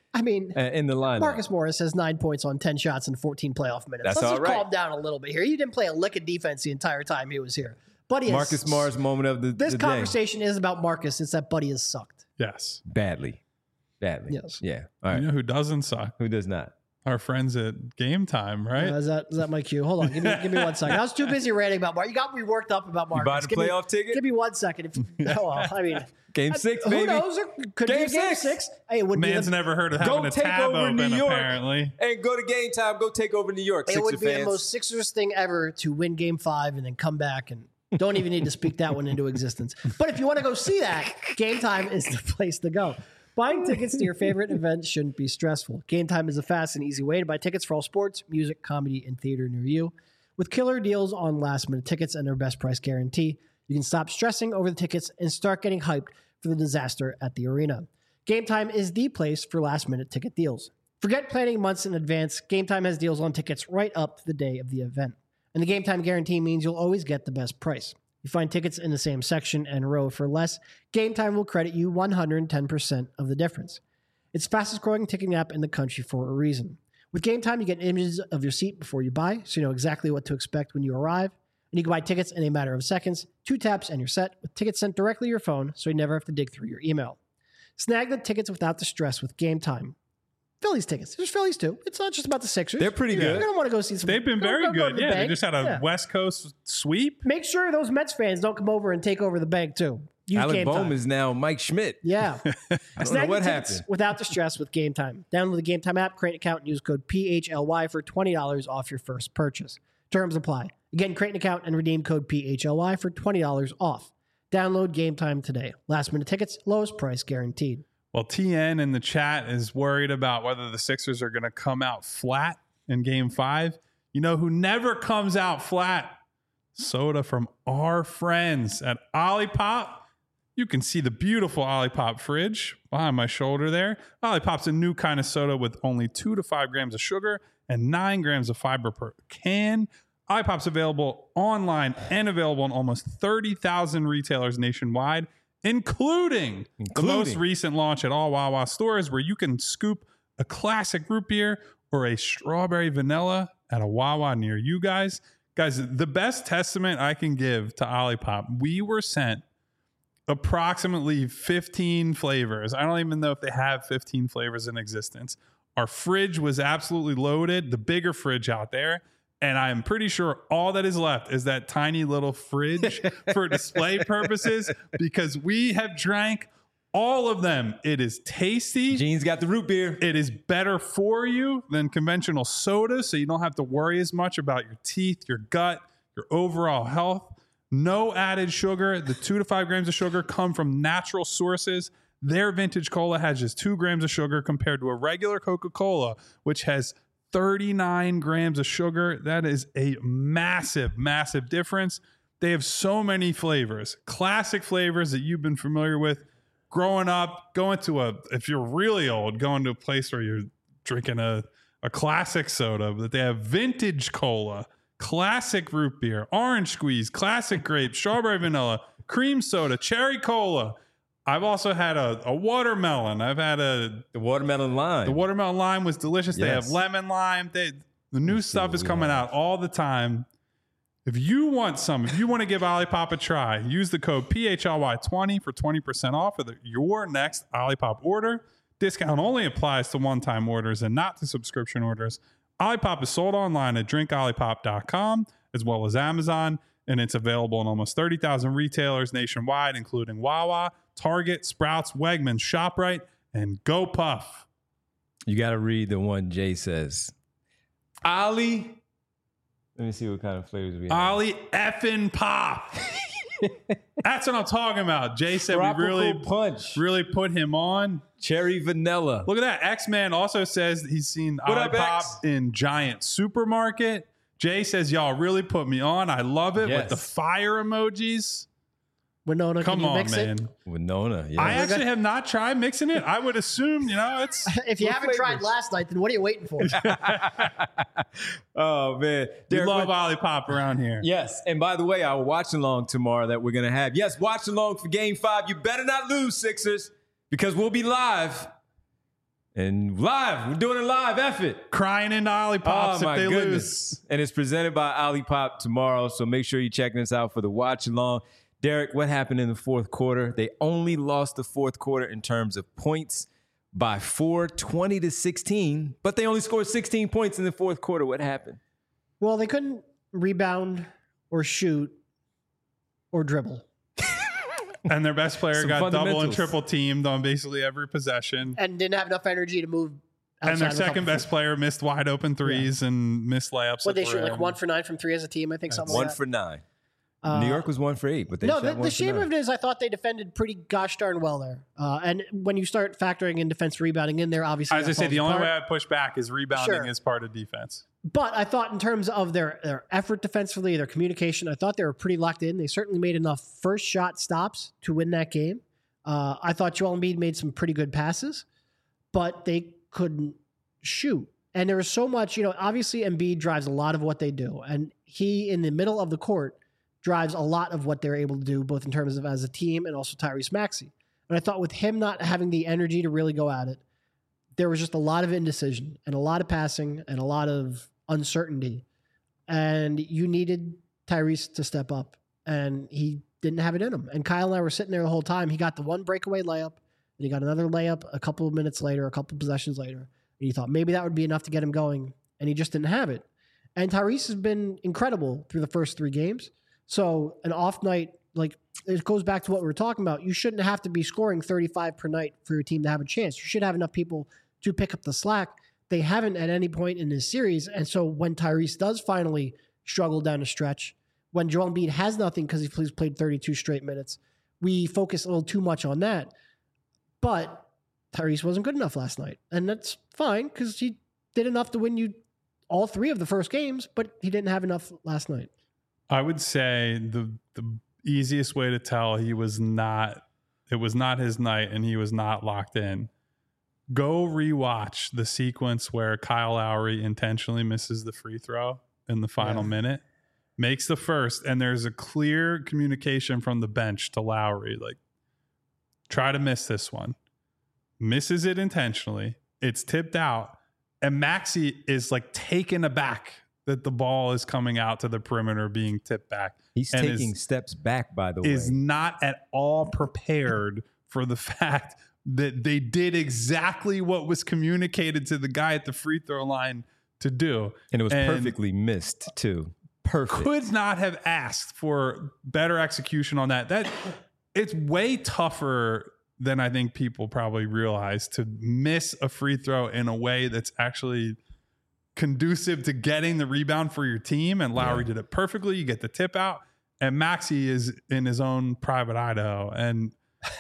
I mean, uh, in the lineup. Marcus Morris has nine points on ten shots in fourteen playoff minutes. That's Let's all just right. calm down a little bit here. You didn't play a lick of defense the entire time he was here. Buddy Marcus has, Morris moment of the, This the day. conversation is about Marcus. It's that Buddy has sucked. Yes. Badly. Badly. Yes. Yeah. All right. You know who doesn't suck? Who does not? Our friends at Game Time, right? Uh, is that is that my cue? Hold on. Give me give me one second. I was too busy ranting about Marcus. You got me worked up about Marcus. You buy the give playoff me, ticket? Give me one second. If, oh, well, I mean, Game six, who baby. knows? There could Game be a game six. six. Hey, it would Man's be the, never heard of Go having a take tab over open, New York. apparently. And go to Game Time. Go take over New York, it Sixer would be fans. the most Sixers thing ever to win Game Five and then come back and don't even need to speak that one into existence. But if you want to go see that, Game Time is the place to go. Buying tickets to your favorite event shouldn't be stressful. Game Time is a fast and easy way to buy tickets for all sports, music, comedy, and theater near you. With killer deals on last-minute tickets and their best price guarantee, you can stop stressing over the tickets and start getting hyped for the disaster at the arena. Game Time is the place for last-minute ticket deals. Forget planning months in advance. Game Time has deals on tickets right up to the day of the event. And the Game Time guarantee means you'll always get the best price. You find tickets in the same section and row for less. Game Time will credit you one hundred ten percent of the difference. It's the fastest growing ticketing app in the country for a reason. With Game Time, you get images of your seat before you buy, so you know exactly what to expect when you arrive. And you can buy tickets in a matter of seconds. Two taps and you're set, with tickets sent directly to your phone, so you never have to dig through your email. Snag the tickets without the stress with Game Time. Phillies tickets. There's Phillies too. It's not just about the Sixers. They're pretty You're good. going to want to go see some. They've been go- very go- go to good. the Yeah, they bank. just had a Yeah. West Coast sweep. Make sure those Mets fans don't come over and take over the bank too. Use Alec Game Bohm Time. is now Mike Schmidt. Yeah. I don't know Snag what the tickets happened. without the stress with Game Time. Download the Game Time app, create an account, and use code P H L Y for twenty dollars off your first purchase. Terms apply. Again, create an account and redeem code P H L Y for twenty dollars off. Download Game Time today. Last minute tickets, lowest price guaranteed. Well, T N in the chat is worried about whether the Sixers are going to come out flat in game five. You know who never comes out flat? Soda from our friends at Olipop. You can see the beautiful Olipop fridge behind my shoulder there. Olipop's a new kind of soda with only two to five grams of sugar and nine grams of fiber per can. Olipop's available online and available in almost thirty thousand retailers nationwide, including, Including. the most recent launch at all Wawa stores, where you can scoop a classic root beer or a strawberry vanilla at a Wawa near you guys. Guys, the best testament I can give to Olipop, we were sent approximately fifteen flavors. I don't even know if they have fifteen flavors in existence. Our fridge was absolutely loaded, the bigger fridge out there. And I'm pretty sure all that is left is that tiny little fridge for display purposes, because we have drank all of them. It is tasty. Gene's got the root beer. It is better for you than conventional soda, so you don't have to worry as much about your teeth, your gut, your overall health. No added sugar. The two to five grams of sugar come from natural sources. Their vintage cola has just two grams of sugar compared to a regular Coca-Cola, which has thirty-nine grams of sugar. That is a massive, massive difference. They have so many flavors, classic flavors that you've been familiar with growing up, going to a, if you're really old, going to a place where you're drinking a, a classic soda, but they have vintage cola, classic root beer, orange squeeze, classic grape, strawberry vanilla, cream soda, cherry cola. I've also had a, a watermelon. I've had a The watermelon lime. the watermelon lime was delicious. They have Yes. lemon lime. They, the new stuff what is we coming have. out all the time. If you want some, if you want to give Olipop a try, use the code P H L Y twenty for twenty percent off for the, your next Olipop order. Discount only applies to one-time orders and not to subscription orders. Olipop is sold online at drink olipop dot com as well as Amazon, and it's available in almost thirty thousand retailers nationwide, including Wawa, Target, Sprouts, Wegmans, ShopRite, and GoPuff. You got to read the one Jay says. Ollie. Let me see what kind of flavors we have. Ollie effing pop. That's what I'm talking about. Jay said Tropical we really, punch. really put him on. Cherry vanilla. Look at that. X-Man also says he's seen What up, Olipop X? in Giant Supermarket. Jay says, y'all really put me on. I love it Yes. with the fire emojis. Winona, Come can you on, mix man. it? Winona. Yeah. I actually have not tried mixing it. I would assume, you know, it's If you What haven't tried flavors? last night, then what are you waiting for? oh, man. we Derek, love what- Olipop around here. Yes. And by the way, our watch along tomorrow that we're going to have. Yes, watch along for game five. You better not lose, Sixers, because we'll be live. And live, we're doing it live, F it. Crying into Olipop's Oh, if they my lose. goodness. And it's presented by Olipop tomorrow, so make sure you're checking us out for the watch along. Derek, what happened in the fourth quarter? They only lost the fourth quarter in terms of points by four, twenty to sixteen, but they only scored sixteen points in the fourth quarter. What happened? Well, they couldn't rebound or shoot or dribble. And their best player Some got double and fundamentals. triple teamed on basically every possession. And didn't have enough energy to move outside And their of a couple second best feet. player missed wide open threes and missed layups. What that they were shoot like in. one for nine from three as a team, I think something One like that. for nine. Uh, New York was one for eight, but they no, shot the, one the for shame nine. of it is I thought they defended pretty gosh darn well there. Uh, and when you start factoring in defense rebounding in there, obviously As I that say, falls the only apart. way I push back is rebounding Sure. is part of defense. But I thought in terms of their, their effort defensively, their communication, I thought they were pretty locked in. They certainly made enough first shot stops to win that game. Uh, I thought Joel Embiid made some pretty good passes, but they couldn't shoot. And there was so much, you know, obviously Embiid drives a lot of what they do. And he, in the middle of the court, drives a lot of what they're able to do, both in terms of as a team and also Tyrese Maxey. And I thought with him not having the energy to really go at it, there was just a lot of indecision and a lot of passing and a lot of uncertainty. And you needed Tyrese to step up, and he didn't have it in him. And Kyle and I were sitting there the whole time. He got the one breakaway layup, and he got another layup a couple of minutes later, a couple of possessions later. And you thought maybe that would be enough to get him going, and he just didn't have it. And Tyrese has been incredible through the first three games. So an off night, like it goes back to what we were talking about. You shouldn't have to be scoring thirty-five per night for your team to have a chance. You should have enough people to pick up the slack. They haven't at any point in this series. And so when Tyrese does finally struggle down the stretch, when Joel Embiid has nothing because he's played thirty-two straight minutes, we focus a little too much on that. But Tyrese wasn't good enough last night. And that's fine because he did enough to win you all three of the first games, but he didn't have enough last night. I would say the the easiest way to tell he was not, it was not his night and he was not locked in. Go rewatch the sequence where Kyle Lowry intentionally misses the free throw in the final Yeah. minute, makes the first, and there's a clear communication from the bench to Lowry, like, try to miss this one. Misses it intentionally. It's tipped out. And Maxey is like taken aback that the ball is coming out to the perimeter being tipped back. He's and taking is, steps back, by the is way. not at all prepared for the fact that they did exactly what was communicated to the guy at the free throw line to do. And it was and perfectly missed, too. Perfect. Could not have asked for better execution on that. That it's way tougher than I think people probably realize to miss a free throw in a way that's actually conducive to getting the rebound for your team. And Lowry Yeah. did it perfectly. You get the tip out, and Maxey is in his own private Idaho. And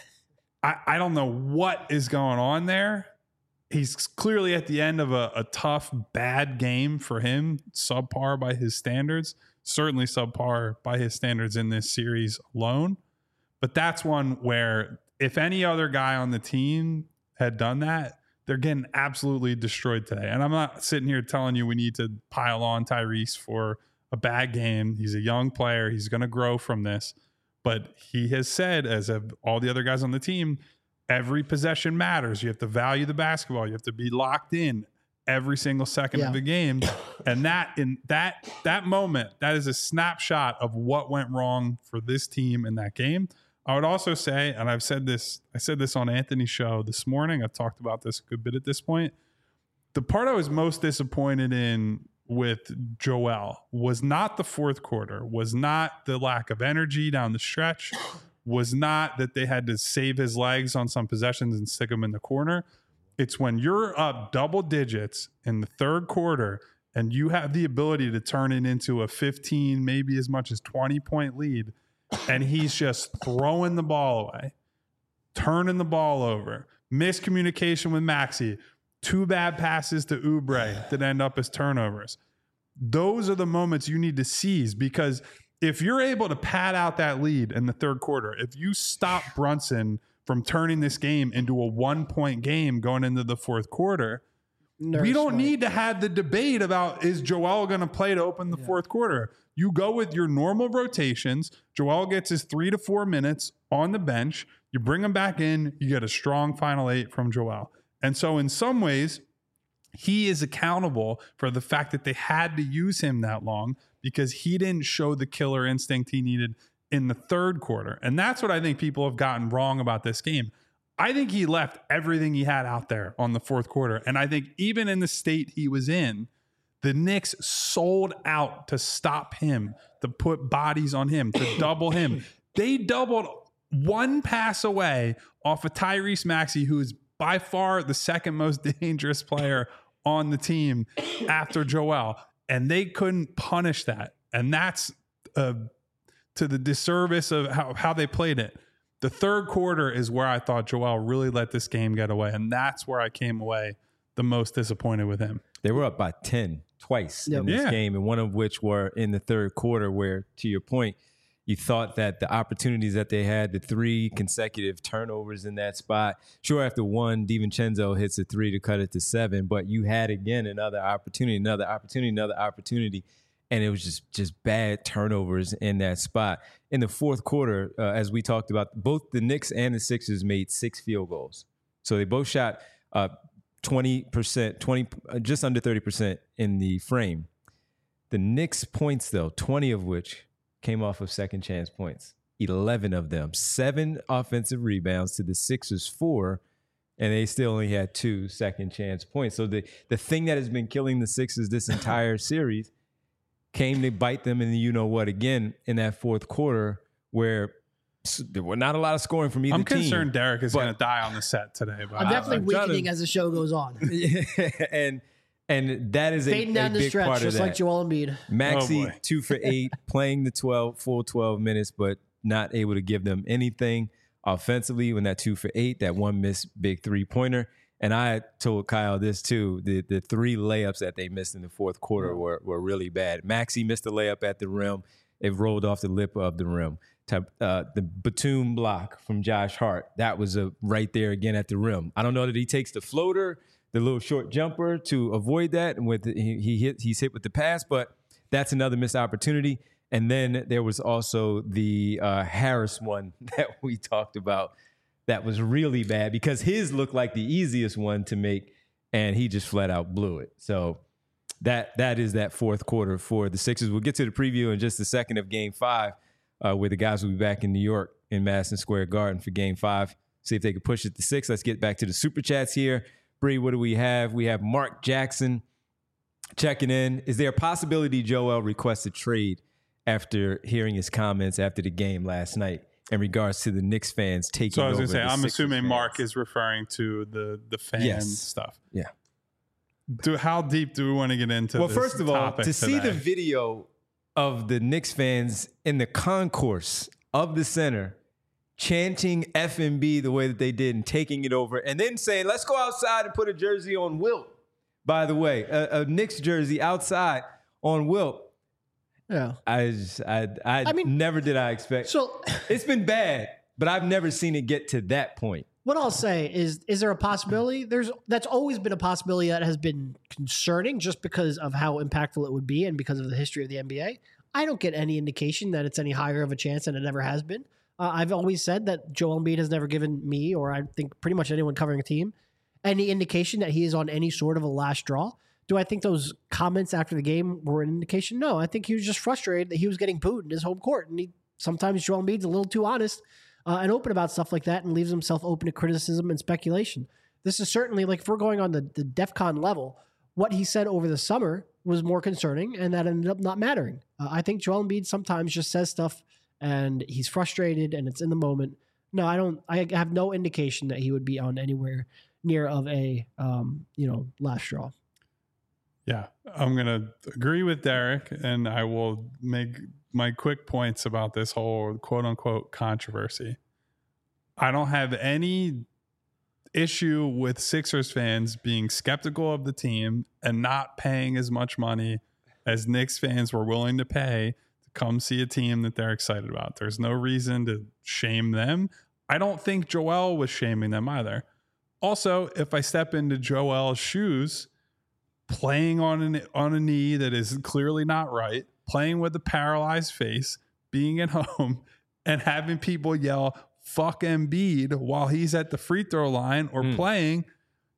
I, I don't know what is going on there. He's clearly at the end of a, a tough, bad game for him, subpar by his standards, certainly subpar by his standards in this series alone. But that's one where if any other guy on the team had done that, they're getting absolutely destroyed today. And I'm not sitting here telling you we need to pile on Tyrese for a bad game. He's a young player. He's going to grow from this. But he has said, as have all the other guys on the team, every possession matters. You have to value the basketball. You have to be locked in every single second Yeah. of the game. And that in that that moment, that is a snapshot of what went wrong for this team in that game. I would also say, and I've said this, I said this on Anthony's show this morning. I've talked about this a good bit at this point. The part I was most disappointed in with Joel was not the fourth quarter, was not the lack of energy down the stretch, was not that they had to save his legs on some possessions and stick him in the corner. It's when you're up double digits in the third quarter and you have the ability to turn it into a fifteen, maybe as much as twenty point lead, and he's just throwing the ball away, turning the ball over, miscommunication with Maxey, two bad passes to Oubre that end up as turnovers. Those are the moments you need to seize, because if you're able to pad out that lead in the third quarter, if you stop Brunson from turning this game into a one-point game going into the fourth quarter, Nurse we don't Mike. need to have the debate about is Joel going to play to open the Yeah. fourth quarter. You go with your normal rotations. Joel gets his three to four minutes on the bench. You bring him back in. You get a strong final eight from Joel. And so in some ways, he is accountable for the fact that they had to use him that long because he didn't show the killer instinct he needed in the third quarter. And that's what I think people have gotten wrong about this game. I think he left everything he had out there on the fourth quarter. And I think even in the state he was in, the Knicks sold out to stop him, to put bodies on him, to double him. They doubled one pass away off of Tyrese Maxey, who is by far the second most dangerous player on the team after Joel. And they couldn't punish that. And that's uh, to the disservice of how, how they played it. The third quarter is where I thought Joel really let this game get away. And that's where I came away the most disappointed with him. They were up by ten twice Yep. in this Yeah. game, and one of which were in the third quarter where, to your point, you thought that the opportunities that they had, the three consecutive turnovers in that spot, sure, after one, DiVincenzo hits a three to cut it to seven, but you had, again, another opportunity, another opportunity, another opportunity, and it was just just bad turnovers in that spot. In the fourth quarter, uh, as we talked about, both the Knicks and the Sixers made six field goals. So they both shot uh, twenty percent, twenty, uh, just under thirty percent in the frame. The Knicks points, though, twenty of which came off of second chance points. eleven of them, seven offensive rebounds to the Sixers four, and they still only had two second chance points. So the, the thing that has been killing the Sixers this entire series came to bite them in the you-know-what again in that fourth quarter where there were not a lot of scoring from either I'm team. concerned Derek is but- going to die on the set today. But I'm definitely I'm trying weakening to- as the show goes on. and and that is a, Fading a down the big stretch, part of just that. like Joel Embiid. Maxey, Oh, boy. two for eight, playing the twelve, full twelve minutes, but not able to give them anything offensively when that two for eight, that one missed big three-pointer. And I told Kyle this too, the, the three layups that they missed in the fourth quarter were, were really bad. Maxey missed a layup at the rim. It rolled off the lip of the rim. Uh, the Batum block from Josh Hart, that was a right there again at the rim. I don't know that he takes the floater, the little short jumper to avoid that, and with the, he, he hit he's hit with the pass, but that's another missed opportunity. And then there was also the uh, Harris one that we talked about that was really bad because his looked like the easiest one to make, and he just flat out blew it. So that that is that fourth quarter for the Sixers. We'll get to the preview in just a second of Game Five, uh, where the guys will be back in New York in Madison Square Garden for Game Five. See if they can push it to six. Let's get back to the Super Chats here. Bree, what do we have? We have Mark Jackson checking in. Is there a possibility Joel requests a trade after hearing his comments after the game last night in regards to the Knicks fans taking so I was over going to say, the I'm Sixers assuming fans? Mark is referring to the the fan Yes. stuff. Yeah. Do how deep do we want to get into? Well, this first of all, topic to see today? the video of the Knicks fans in the concourse of the center chanting F M B the way that they did and taking it over and then saying, let's go outside and put a jersey on Wilt, by the way, a, a Knicks jersey outside on Wilt. Yeah. I just, I, I, I mean- never did I expect. So It's been bad, but I've never seen it get to that point. what I'll say is, is there a possibility? There's that's always been a possibility that has been concerning just because of how impactful it would be and because of the history of the N B A. I don't get any indication that it's any higher of a chance than it ever has been. Uh, I've always said that Joel Embiid has never given me, or I think pretty much anyone covering a team, any indication that he is on any sort of a last draw. Do I think those comments after the game were an indication? No, I think he was just frustrated that he was getting booed in his home court. And he, sometimes Joel Embiid's a little too honest uh, and open about stuff like that and leaves himself open to criticism and speculation. This is certainly, like, if we're going on the, the DEFCON level, what he said over the summer was more concerning, and that ended up not mattering. Uh, I think Joel Embiid sometimes just says stuff and he's frustrated and it's in the moment. No, I don't. I have no indication that he would be on anywhere near of a, um, you know, last straw. Yeah, I'm going to agree with Derek, and I will make my quick points about this whole quote unquote controversy. I don't have any issue with Sixers fans being skeptical of the team and not paying as much money as Knicks fans were willing to pay to come see a team that they're excited about. There's no reason to shame them. I don't think Joel was shaming them either. Also, if I step into Joel's shoes, playing on an on a knee that is clearly not right, playing with a paralyzed face, being at home, and having people yell "fuck Embiid" while he's at the free throw line or Mm. playing,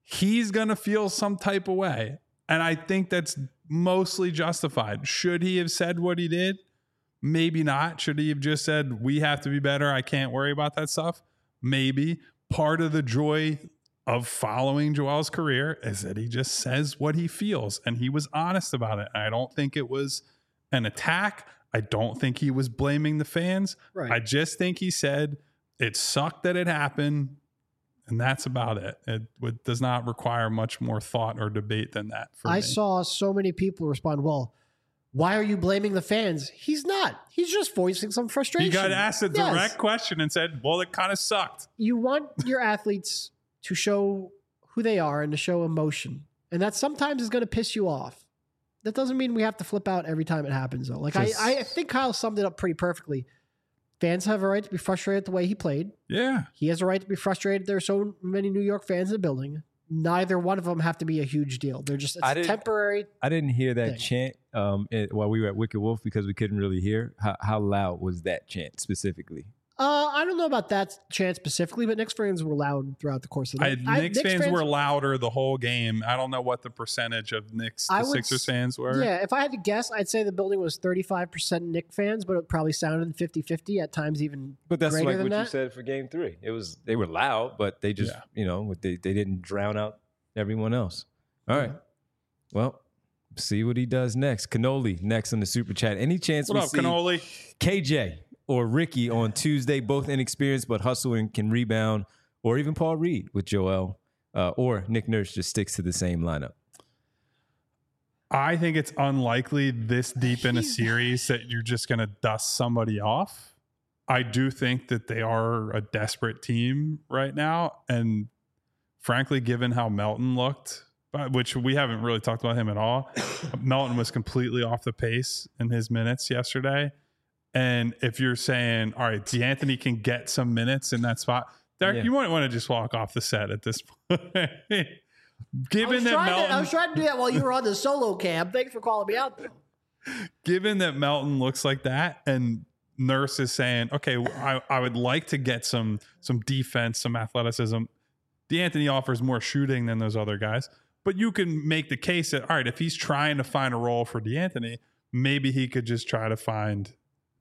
he's going to feel some type of way. And I think that's mostly justified. Should he have said what he did? Maybe not. Should he have just said, we have to be better, I can't worry about that stuff? Maybe. Part of the joy of following Joel's career is that he just says what he feels, and he was honest about it. I don't think it was an attack. I don't think he was blaming the fans. Right. I just think he said it sucked that it happened, and that's about it. It would, does not require much more thought or debate than that. For I me. saw so many people respond, well, why are you blaming the fans? He's not. He's just voicing some frustration. He got asked a direct Yes. question and said, well, it kind of sucked. You want your athletes to show who they are and to show emotion. And that sometimes is going to piss you off. That doesn't mean we have to flip out every time it happens, though. Like, Just- I, I think Kyle summed it up pretty perfectly. Fans have a right to be frustrated the way he played. Yeah. He has a right to be frustrated. There are so many New York fans in the building. Neither one of them have to be a huge deal. They're just, it's I didn't- temporary. I didn't hear that thing. chant um, it, while we were at Wicked Wolf because we couldn't really hear. How, how loud was that chant specifically? Uh, I don't know about that chant specifically, but Knicks fans were loud throughout the course of the I, night. Knicks, I, fans, were louder the whole game. I don't know what the percentage of Knicks I to would Sixers s- fans were. Yeah, if I had to guess, I'd say the building was thirty-five percent Knicks fans, but it probably sounded fifty-fifty, at times even But that's greater like than what you that. said for Game Three. It was they were loud, but they just Yeah. you know they they didn't drown out everyone else. All right, well, see what he does next. Cannoli next on the super chat. Any chance What we up, see Cannoli? K J or Ricky on Tuesday, both inexperienced but hustle and can rebound, or even Paul Reed with Joel, uh, or Nick Nurse just sticks to the same lineup? I think it's unlikely this deep in a He's- series that you're just going to dust somebody off. I do think that they are a desperate team right now. And frankly, given how Melton looked, but- which we haven't really talked about him at all, Melton was completely off the pace in his minutes yesterday. And if you're saying, all right, DeAnthony can get some minutes in that spot, Derek, Yeah. you might want to just walk off the set at this point. I Given was, that trying Melton, to, I was trying to do that while you were on the solo cam. Thanks for calling me out, though. given that Melton looks like that, and Nurse is saying, okay, I, I would like to get some some defense, some athleticism. DeAnthony offers more shooting than those other guys, but you can make the case that, all right, if he's trying to find a role for DeAnthony, maybe he could just try to find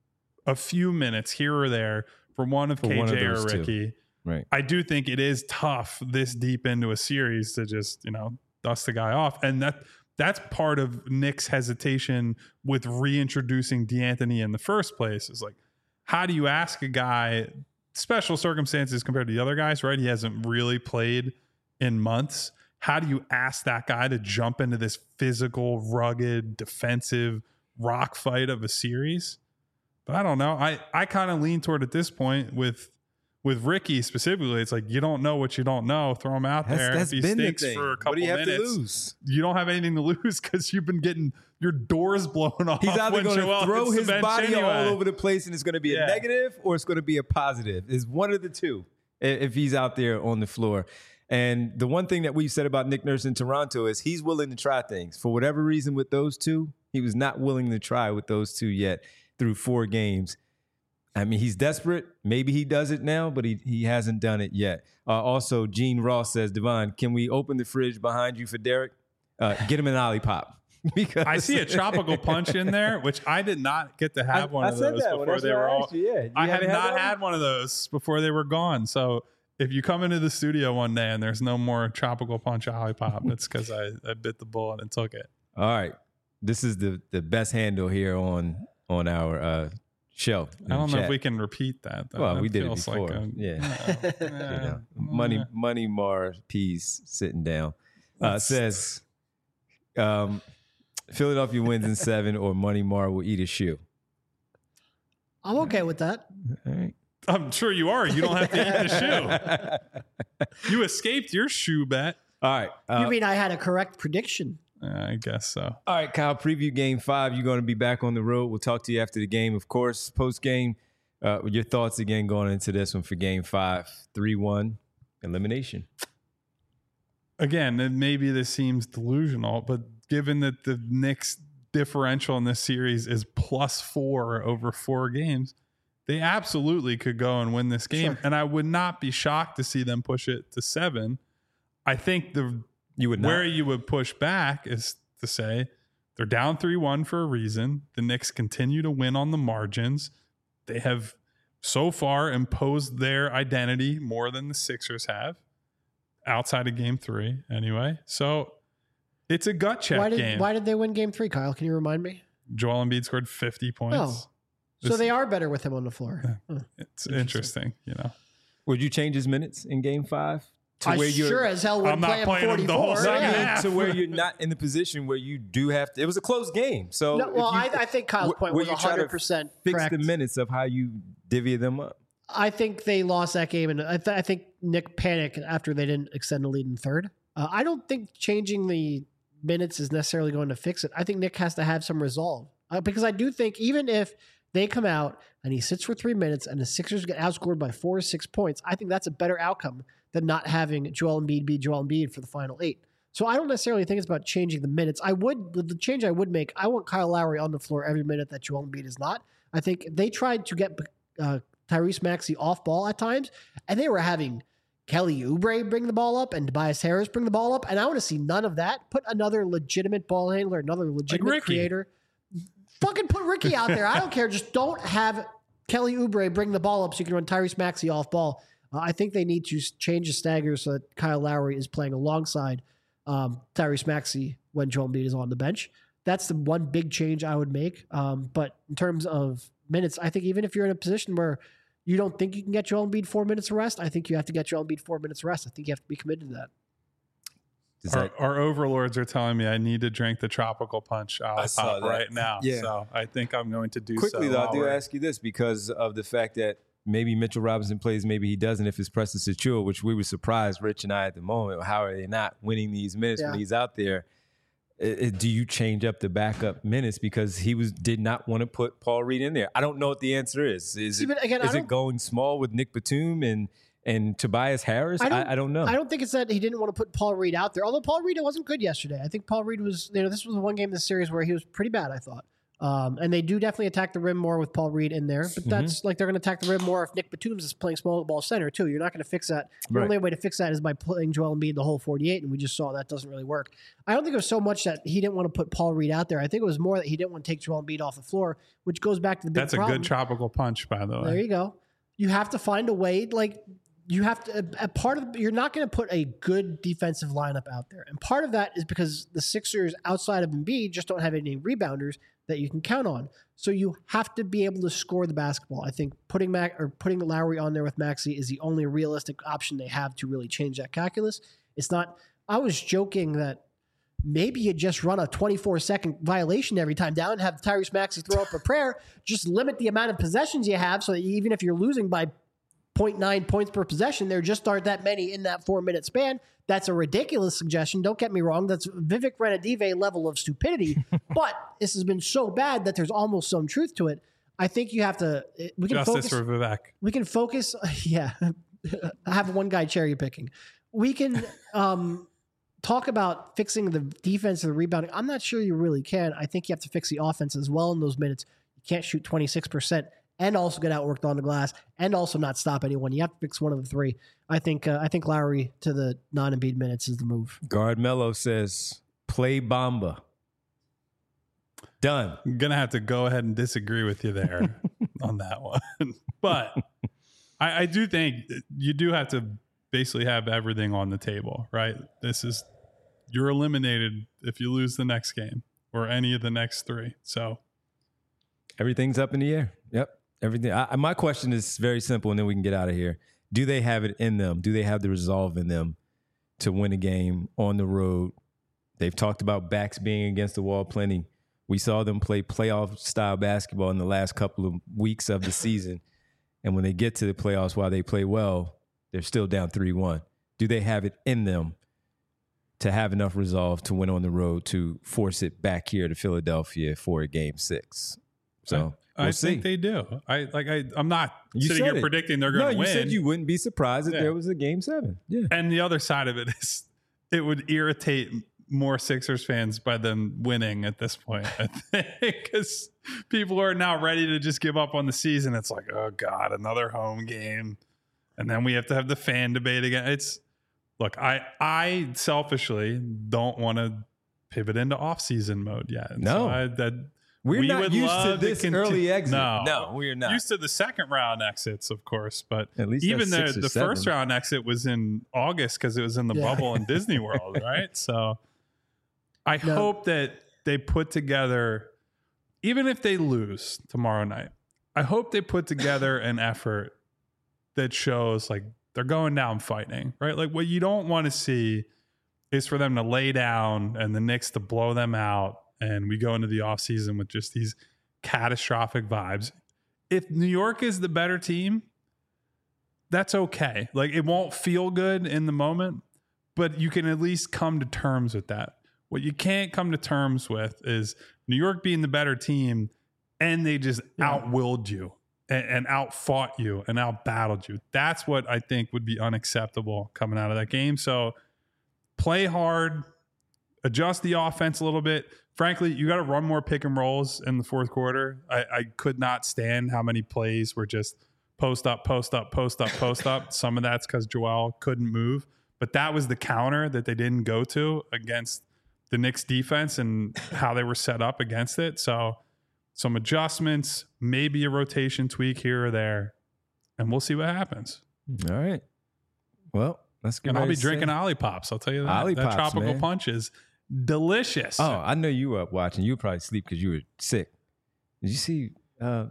a few minutes here or there for one of For K J one of or those two. Ricky. Right. I do think it is tough this deep into a series to just, you know, dust the guy off. And that that's part of Nick's hesitation with reintroducing DeAnthony in the first place. Is like, how do you ask a guy, special circumstances compared to the other guys, right? He hasn't really played in months. How do you ask that guy to jump into this physical, rugged, defensive rock fight of a series? But I don't know. I, I kind of lean toward at this point with with Ricky specifically. It's like, you don't know what you don't know. Throw him out That's, there. that's if he been the stinks thing. for a couple What do you have minutes, to lose? you don't have anything to lose because you've been getting your doors blown off. He's either when going Joel to throw hits the his bench body anyway. all over the place and it's going to be Yeah. a negative or it's going to be a positive. It's one of the two i- if he's out there on the floor. And the one thing that we've said about Nick Nurse in Toronto is he's willing to try things. For whatever reason with those two, he was not willing to try with those two yet through four games. I mean, he's desperate. Maybe he does it now, but he, he hasn't done it yet. Uh, also, Gene Ross says, Devon, can we open the fridge behind you for Derek? Uh, get him an Olipop. Because I see a tropical punch in there, which I did not get to have I- one I of said those that when before that's they what were I all. asked you, yeah. You I have haven't had not one? had one of those before they were gone. So if you come into the studio one day and there's no more tropical punch Olipop, it's because I, I bit the bullet and took it. All right. This is the, the best handle here on on our uh, show. I don't know chat. if we can repeat that. Though. Well, That we did it feels before. Like a, Yeah. you You know, know, uh, money, uh, money, Mar, peas, sitting down. Uh, That's- says, um, Philadelphia wins in seven, or Money Mar will eat a shoe. I'm okay with that. All right. I'm sure you are. You don't have to eat the shoe. You escaped your shoe bet. All right. Uh, You mean I had a correct prediction? Uh, I guess so. all right, Kyle. Preview game five. You're going to be back on the road. We'll talk to you after the game, of course. Post game, uh, your thoughts again going into this one for game five. three one elimination. Again, and maybe this seems delusional, but given that the Knicks differential in this series is plus four over four games, they absolutely could go and win this game. Sure. And I would not be shocked to see them push it to seven. I think the You would not. where you would push back is to say they're down three one for a reason. The Knicks continue to win on the margins. They have so far imposed their identity more than the Sixers have, outside of game three anyway. So it's a gut check Why did game. why did they win game three, Kyle? Can you remind me? Joel Embiid scored fifty points. Oh. So This- they are better with him on the floor. Huh. It's interesting, you know. Would you change his minutes in game five? To I where you're, sure as hell I'm wouldn't not play him playing him the whole forty-four. second Yeah. half. to where you're not in the position where you do have to. It was a close game. So No, well, if you, I, I think Kyle's wh- point where was you try to one hundred percent fix correct. the minutes of how you divvy them up. I think they lost that game, and I, th- I think Nick panicked after they didn't extend the lead in third. Uh, I don't think changing the minutes is necessarily going to fix it. I think Nick has to have some resolve uh, because I do think even if they come out and he sits for three minutes and the Sixers get outscored by four or six points, I think that's a better outcome than not having Joel Embiid be Joel Embiid for the final eight. So I don't necessarily think it's about changing the minutes. I would the change I would make. I want Kyle Lowry on the floor every minute that Joel Embiid is not. I think they tried to get uh, Tyrese Maxey off ball at times, and they were having Kelly Oubre bring the ball up and Tobias Harris bring the ball up, and I want to see none of that. Put another legitimate ball handler, another legitimate Ricky. creator. Fucking put Ricky out there. I don't care. Just don't have Kelly Oubre bring the ball up so you can run Tyrese Maxey off ball. Uh, I think they need to s- change the stagger so that Kyle Lowry is playing alongside um, Tyrese Maxey when Joel Embiid is on the bench. That's the one big change I would make. Um, but in terms of minutes, I think even if you're in a position where you don't think you can get Joel Embiid four minutes of rest, I think you have to get Joel Embiid four minutes of rest. I think you have to be committed to that. Is Our, that- our overlords are telling me I need to drink the tropical punch I saw Olipop that. right now. Yeah. So I think I'm going to do Quickly, so. though, I while do we're- ask you this because of the fact that maybe Mitchell Robinson plays, maybe he doesn't if it's Preston Sachua, which we were surprised, Rich and I, at the moment. How are they not winning these minutes Yeah. when he's out there? I- I- do you change up the backup minutes because he was did not want to put Paul Reed in there? I don't know what the answer is. Is See, it, but again, I is it don't- going small with Nick Batum and and Tobias Harris? I I don't- don't, I, I don't know. I don't think it's that he didn't want to put Paul Reed out there. Although Paul Reed wasn't good yesterday. I think Paul Reed was, you know, this was the one game in the series where he was pretty bad, I thought. Um, and they do definitely attack the rim more with Paul Reed in there. But that's like they're going to attack the rim more if Nick Batum is playing small ball center, too. You're not going to fix that. The Right. only way to fix that is by playing Joel Embiid the whole forty-eight, and we just saw that doesn't really work. I don't think it was so much that he didn't want to put Paul Reed out there. I think it was more that he didn't want to take Joel Embiid off the floor, which goes back to the big That's a problem. good tropical punch, by the way. There you go. You have to find a way, like you have to. A, a part of you're not going to put a good defensive lineup out there, and part of that is because the Sixers, outside of Embiid, just don't have any rebounders that you can count on. So you have to be able to score the basketball. I think putting Mac or putting Lowry on there with Maxey is the only realistic option they have to really change that calculus. It's not. I was joking that maybe you just run a twenty-four second violation every time down and have Tyrese Maxey throw up a prayer. Just limit the amount of possessions you have so that even if you're losing by zero point nine points per possession, there just aren't that many in that four minute span. That's a ridiculous suggestion. Don't get me wrong. That's Vivek Ranadive level of stupidity. But this has been so bad that there's almost some truth to it. I think you have to. We can Justice focus. for Vivek. We can focus. Yeah, I have one guy cherry picking. We can um, talk about fixing the defense and the rebounding. I'm not sure you really can. I think you have to fix the offense as well in those minutes. You can't shoot twenty-six percent and also get outworked on the glass and also not stop anyone. You have to fix one of the three. I think. Uh, I think Lowry to the non-Embiid minutes is the move. Guard Mello says, play Bamba. Done. I'm going to have to go ahead and disagree with you there on that one. But I, I do think you do have to basically have everything on the table, right? This is, you're eliminated if you lose the next game or any of the next three. So Everything's up in the air. Yep. Everything. I, my question is very simple, and then we can get out of here. Do they have it in them? Do they have the resolve in them to win a game on the road? They've talked about backs being against the wall plenty. We saw them play playoff style basketball in the last couple of weeks of the season. And when they get to the playoffs, while they play well, they're still down three one. Do they have it in them to have enough resolve to win on the road to force it back here to Philadelphia for a game six? So I, we'll I see. think they do. I like. I. I'm not You sitting said here it. predicting they're No, going to you win. said you wouldn't be surprised if Yeah. there was a game seven. Yeah. And the other side of it is, it would irritate more Sixers fans by them winning at this point, I think, because people are now ready to just give up on the season. It's like, oh God, another home game. And then we have to have the fan debate again. It's look, I I selfishly don't want to pivot into off-season mode yet. No. So I, that We're we not would used to love this conti- early exit. No, No, we're not. Used to the second round exits, of course, but At least even that's the six or the seven. first round exit was in August because it was in the Yeah. bubble in Disney World, right? So I No. hope that they put together, even if they lose tomorrow night, I hope they put together an effort that shows like they're going down fighting, right? Like what you don't want to see is for them to lay down and the Knicks to blow them out, and we go into the offseason with just these catastrophic vibes. If New York is the better team, that's okay. Like it won't feel good in the moment, but you can at least come to terms with that. What you can't come to terms with is New York being the better team and they just Yeah. outwilled you and, and outfought you and outbattled you. That's what I think would be unacceptable coming out of that game. So play hard, adjust the offense a little bit. Frankly, you got to run more pick and rolls in the fourth quarter. I, I could not stand how many plays were just post up, post up, post up, post up. Some of that's because Joel couldn't move, but that was the counter that they didn't go to against the Knicks defense and how they were set up against it. So some adjustments, maybe a rotation tweak here or there, and we'll see what happens. All right. Well, let's get And I'll ready be to drinking say- Ollie Pops. I'll tell you that. Ollie that Pops, tropical man. punch is delicious. Oh, I know you were up watching. You were probably asleep because you were sick. Did you see uh,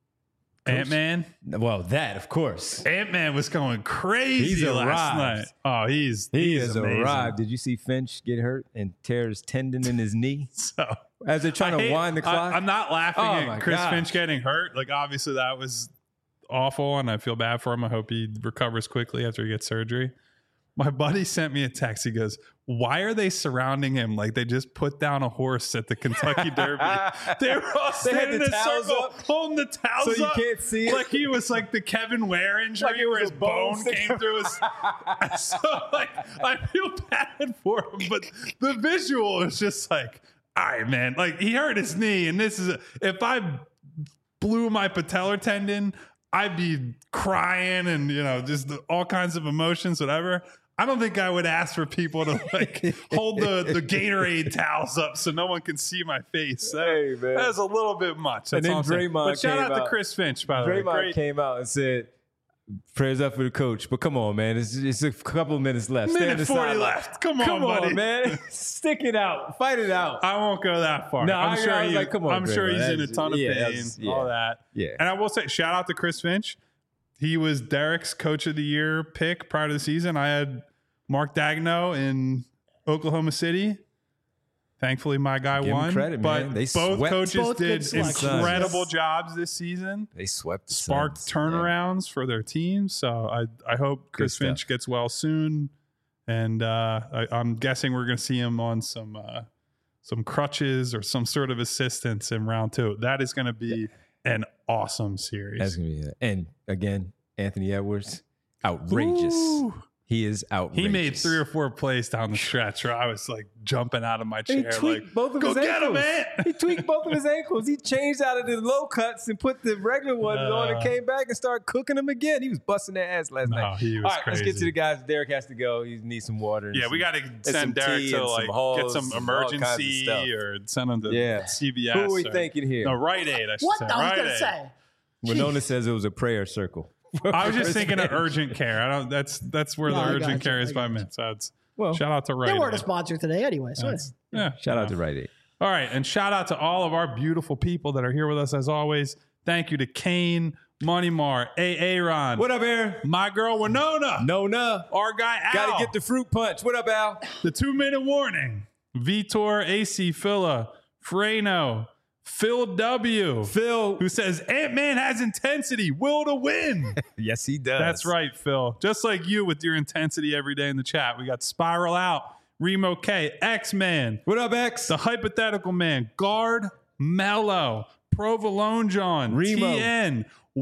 Ant-Man. Well, that, of course. Ant-Man was going crazy He's last arrived. night. Oh, he's He he's has amazing. arrived. Did you see Finch get hurt and tear his tendon in his knee So as they're trying I to hate- wind the clock? I, am not laughing Oh, my at Chris gosh. Finch getting hurt. Like obviously that was awful, and I feel bad for him. I hope he recovers quickly after he gets surgery. My buddy sent me a text. He goes, "Why are they surrounding him like they just put down a horse at the Kentucky Derby? They were all They had standing in the a towels circle, up, holding the towels so you up, can't see it? like he was like the Kevin Ware injury, Like it was where a his bone bone sticking- came through his." So like, I feel bad for him, but the visual is just like, all right, man. Like he hurt his knee, and this is a, if I blew my patellar tendon, I'd be crying and, you know, just the, all kinds of emotions, whatever. I don't think I would ask for people to like hold the, the Gatorade towels up so no one can see my face. That, Hey, man. that was a little bit much. That's And then all I'm saying. Draymond But shout came out out. to Chris Finch, by the way. Draymond Great. came out and said, "Prayers up for the coach." But come on, man. It's, it's a couple of minutes left. Stay on Minute the forty sideline. left. Come on, Come buddy. on, man. Stick it out. Fight it out. I won't go that far. No, I'm I- sure I was he, like, come on, I'm sure Draymond. he's in a That's- ton of yeah, pain, that's- yeah. all that. Yeah. And I will say, shout out to Chris Finch. He was Derek's coach of the year pick prior to the season. I had Mark Dagno in Oklahoma City. Thankfully, my guy Give him won. credit, but man. They both swept- coaches Both good did selections. incredible Yes. jobs this season. They swept the Sparked Suns. turnarounds for their teams. So I, I hope Chris stuff. Finch gets well soon. And uh, I, I'm guessing we're going to see him on some uh, some crutches or some sort of assistance in round two. That is going to be an awesome series. That's gonna be it. And again, Anthony Edwards, outrageous. Ooh. He is outrageous. He made three or four plays down the stretch where I was like jumping out of my He chair, tweaked like, both of "Go his get him, ankles. man!" He tweaked both of his ankles. He changed out of the low cuts and put the regular ones on and Uh. came back and started cooking them again. He was busting their ass last No, night. he was All right, let's get to crazy. the guys. Derek has to go. He needs some water. and Yeah, some- we got to some send Derek tea to and some like get Halls some and all kinds of emergency stuff. or send him to Yeah. C B S. Who are we or- thinking here? No, Rite Aid. I should What say. I was Rite gonna Aid. say? Winona says it was a prayer circle. I was just thinking of urgent care. I don't. That's that's where No, the I urgent got you. care is I by got you. minute. So it's Well, shout out to Rite They Aid. weren't a sponsor today anyway. So That's- yeah. shout out to Rite Aid. All right, and shout out to all of our beautiful people that are here with us as always. Thank you to Kane, Money Mar, A. Aaron, What up, Aaron? my girl Winona, Nona. our guy Al, Got to get the fruit punch. What up, Al? the two minute warning, Vitor, A C, Phila, Freno, Phil W, Phil. who says Ant-Man has intensity, will to win. Yes, he does. That's right, Phil. Just like you with your intensity every day in the chat. We got Spiral Out, Remo K, X-Man, What up, X? The Hypothetical Man, Guard, Mello, Provolone John, Remo. T N,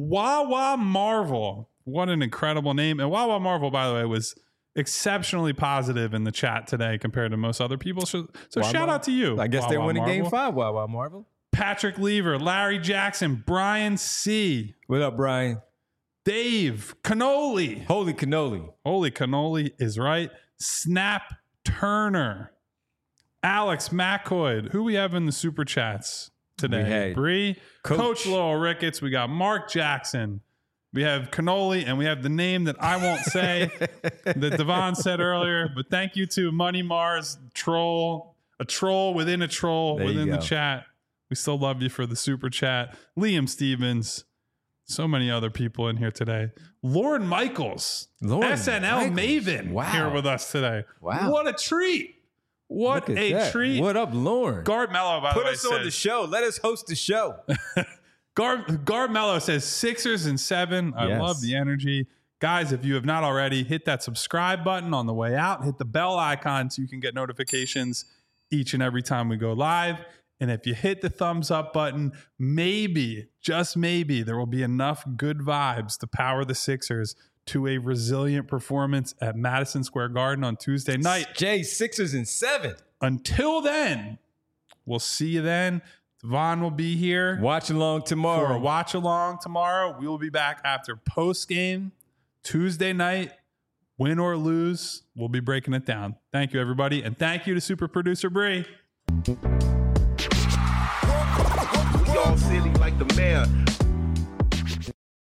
Wawa Marvel. What an incredible name. And Wawa Marvel, by the way, was exceptionally positive in the chat today compared to most other people. So, so Wawa? shout out to you. I guess they're Wawa winning Marvel. game five. Wow, wow, Marvel. Patrick Lever, Larry Jackson, Brian C. What up, Brian? Dave Cannoli. Holy cannoli. Holy cannoli is right. Snap Turner. Alex McCoy. Who we have in the super chats today? Bree. Coach. Coach Lowell Ricketts. We got Mark Jackson. We have cannoli, and we have the name that I won't say that Devon said earlier. But thank you to Money Mars, troll, a troll within a troll there within the chat. We still love you for the super chat. Liam Stevens. So many other people in here today. Lauren Michaels, Lauren S N L Michaels. Maven, Wow. here with us today. Wow. What a treat. What Look at a that. treat. What up, Lauren? Guard Mello, by Put the way, us on says, the show. Let us host the show. Guard, Guard Mello says Sixers and seven. I Yes. love the energy. Guys, if you have not already, hit that subscribe button on the way out. Hit the bell icon so you can get notifications each and every time we go live. And if you hit the thumbs up button, maybe, just maybe, there will be enough good vibes to power the Sixers to a resilient performance at Madison Square Garden on Tuesday night. Jay, Sixers and seven. Until then, we'll see you then. Devon will be here. Watch along For tomorrow. a watch along tomorrow. We will be back after post game Tuesday night. Win or lose, we'll be breaking it down. Thank you, everybody. And thank you to super producer Bree. We all silly like the mayor.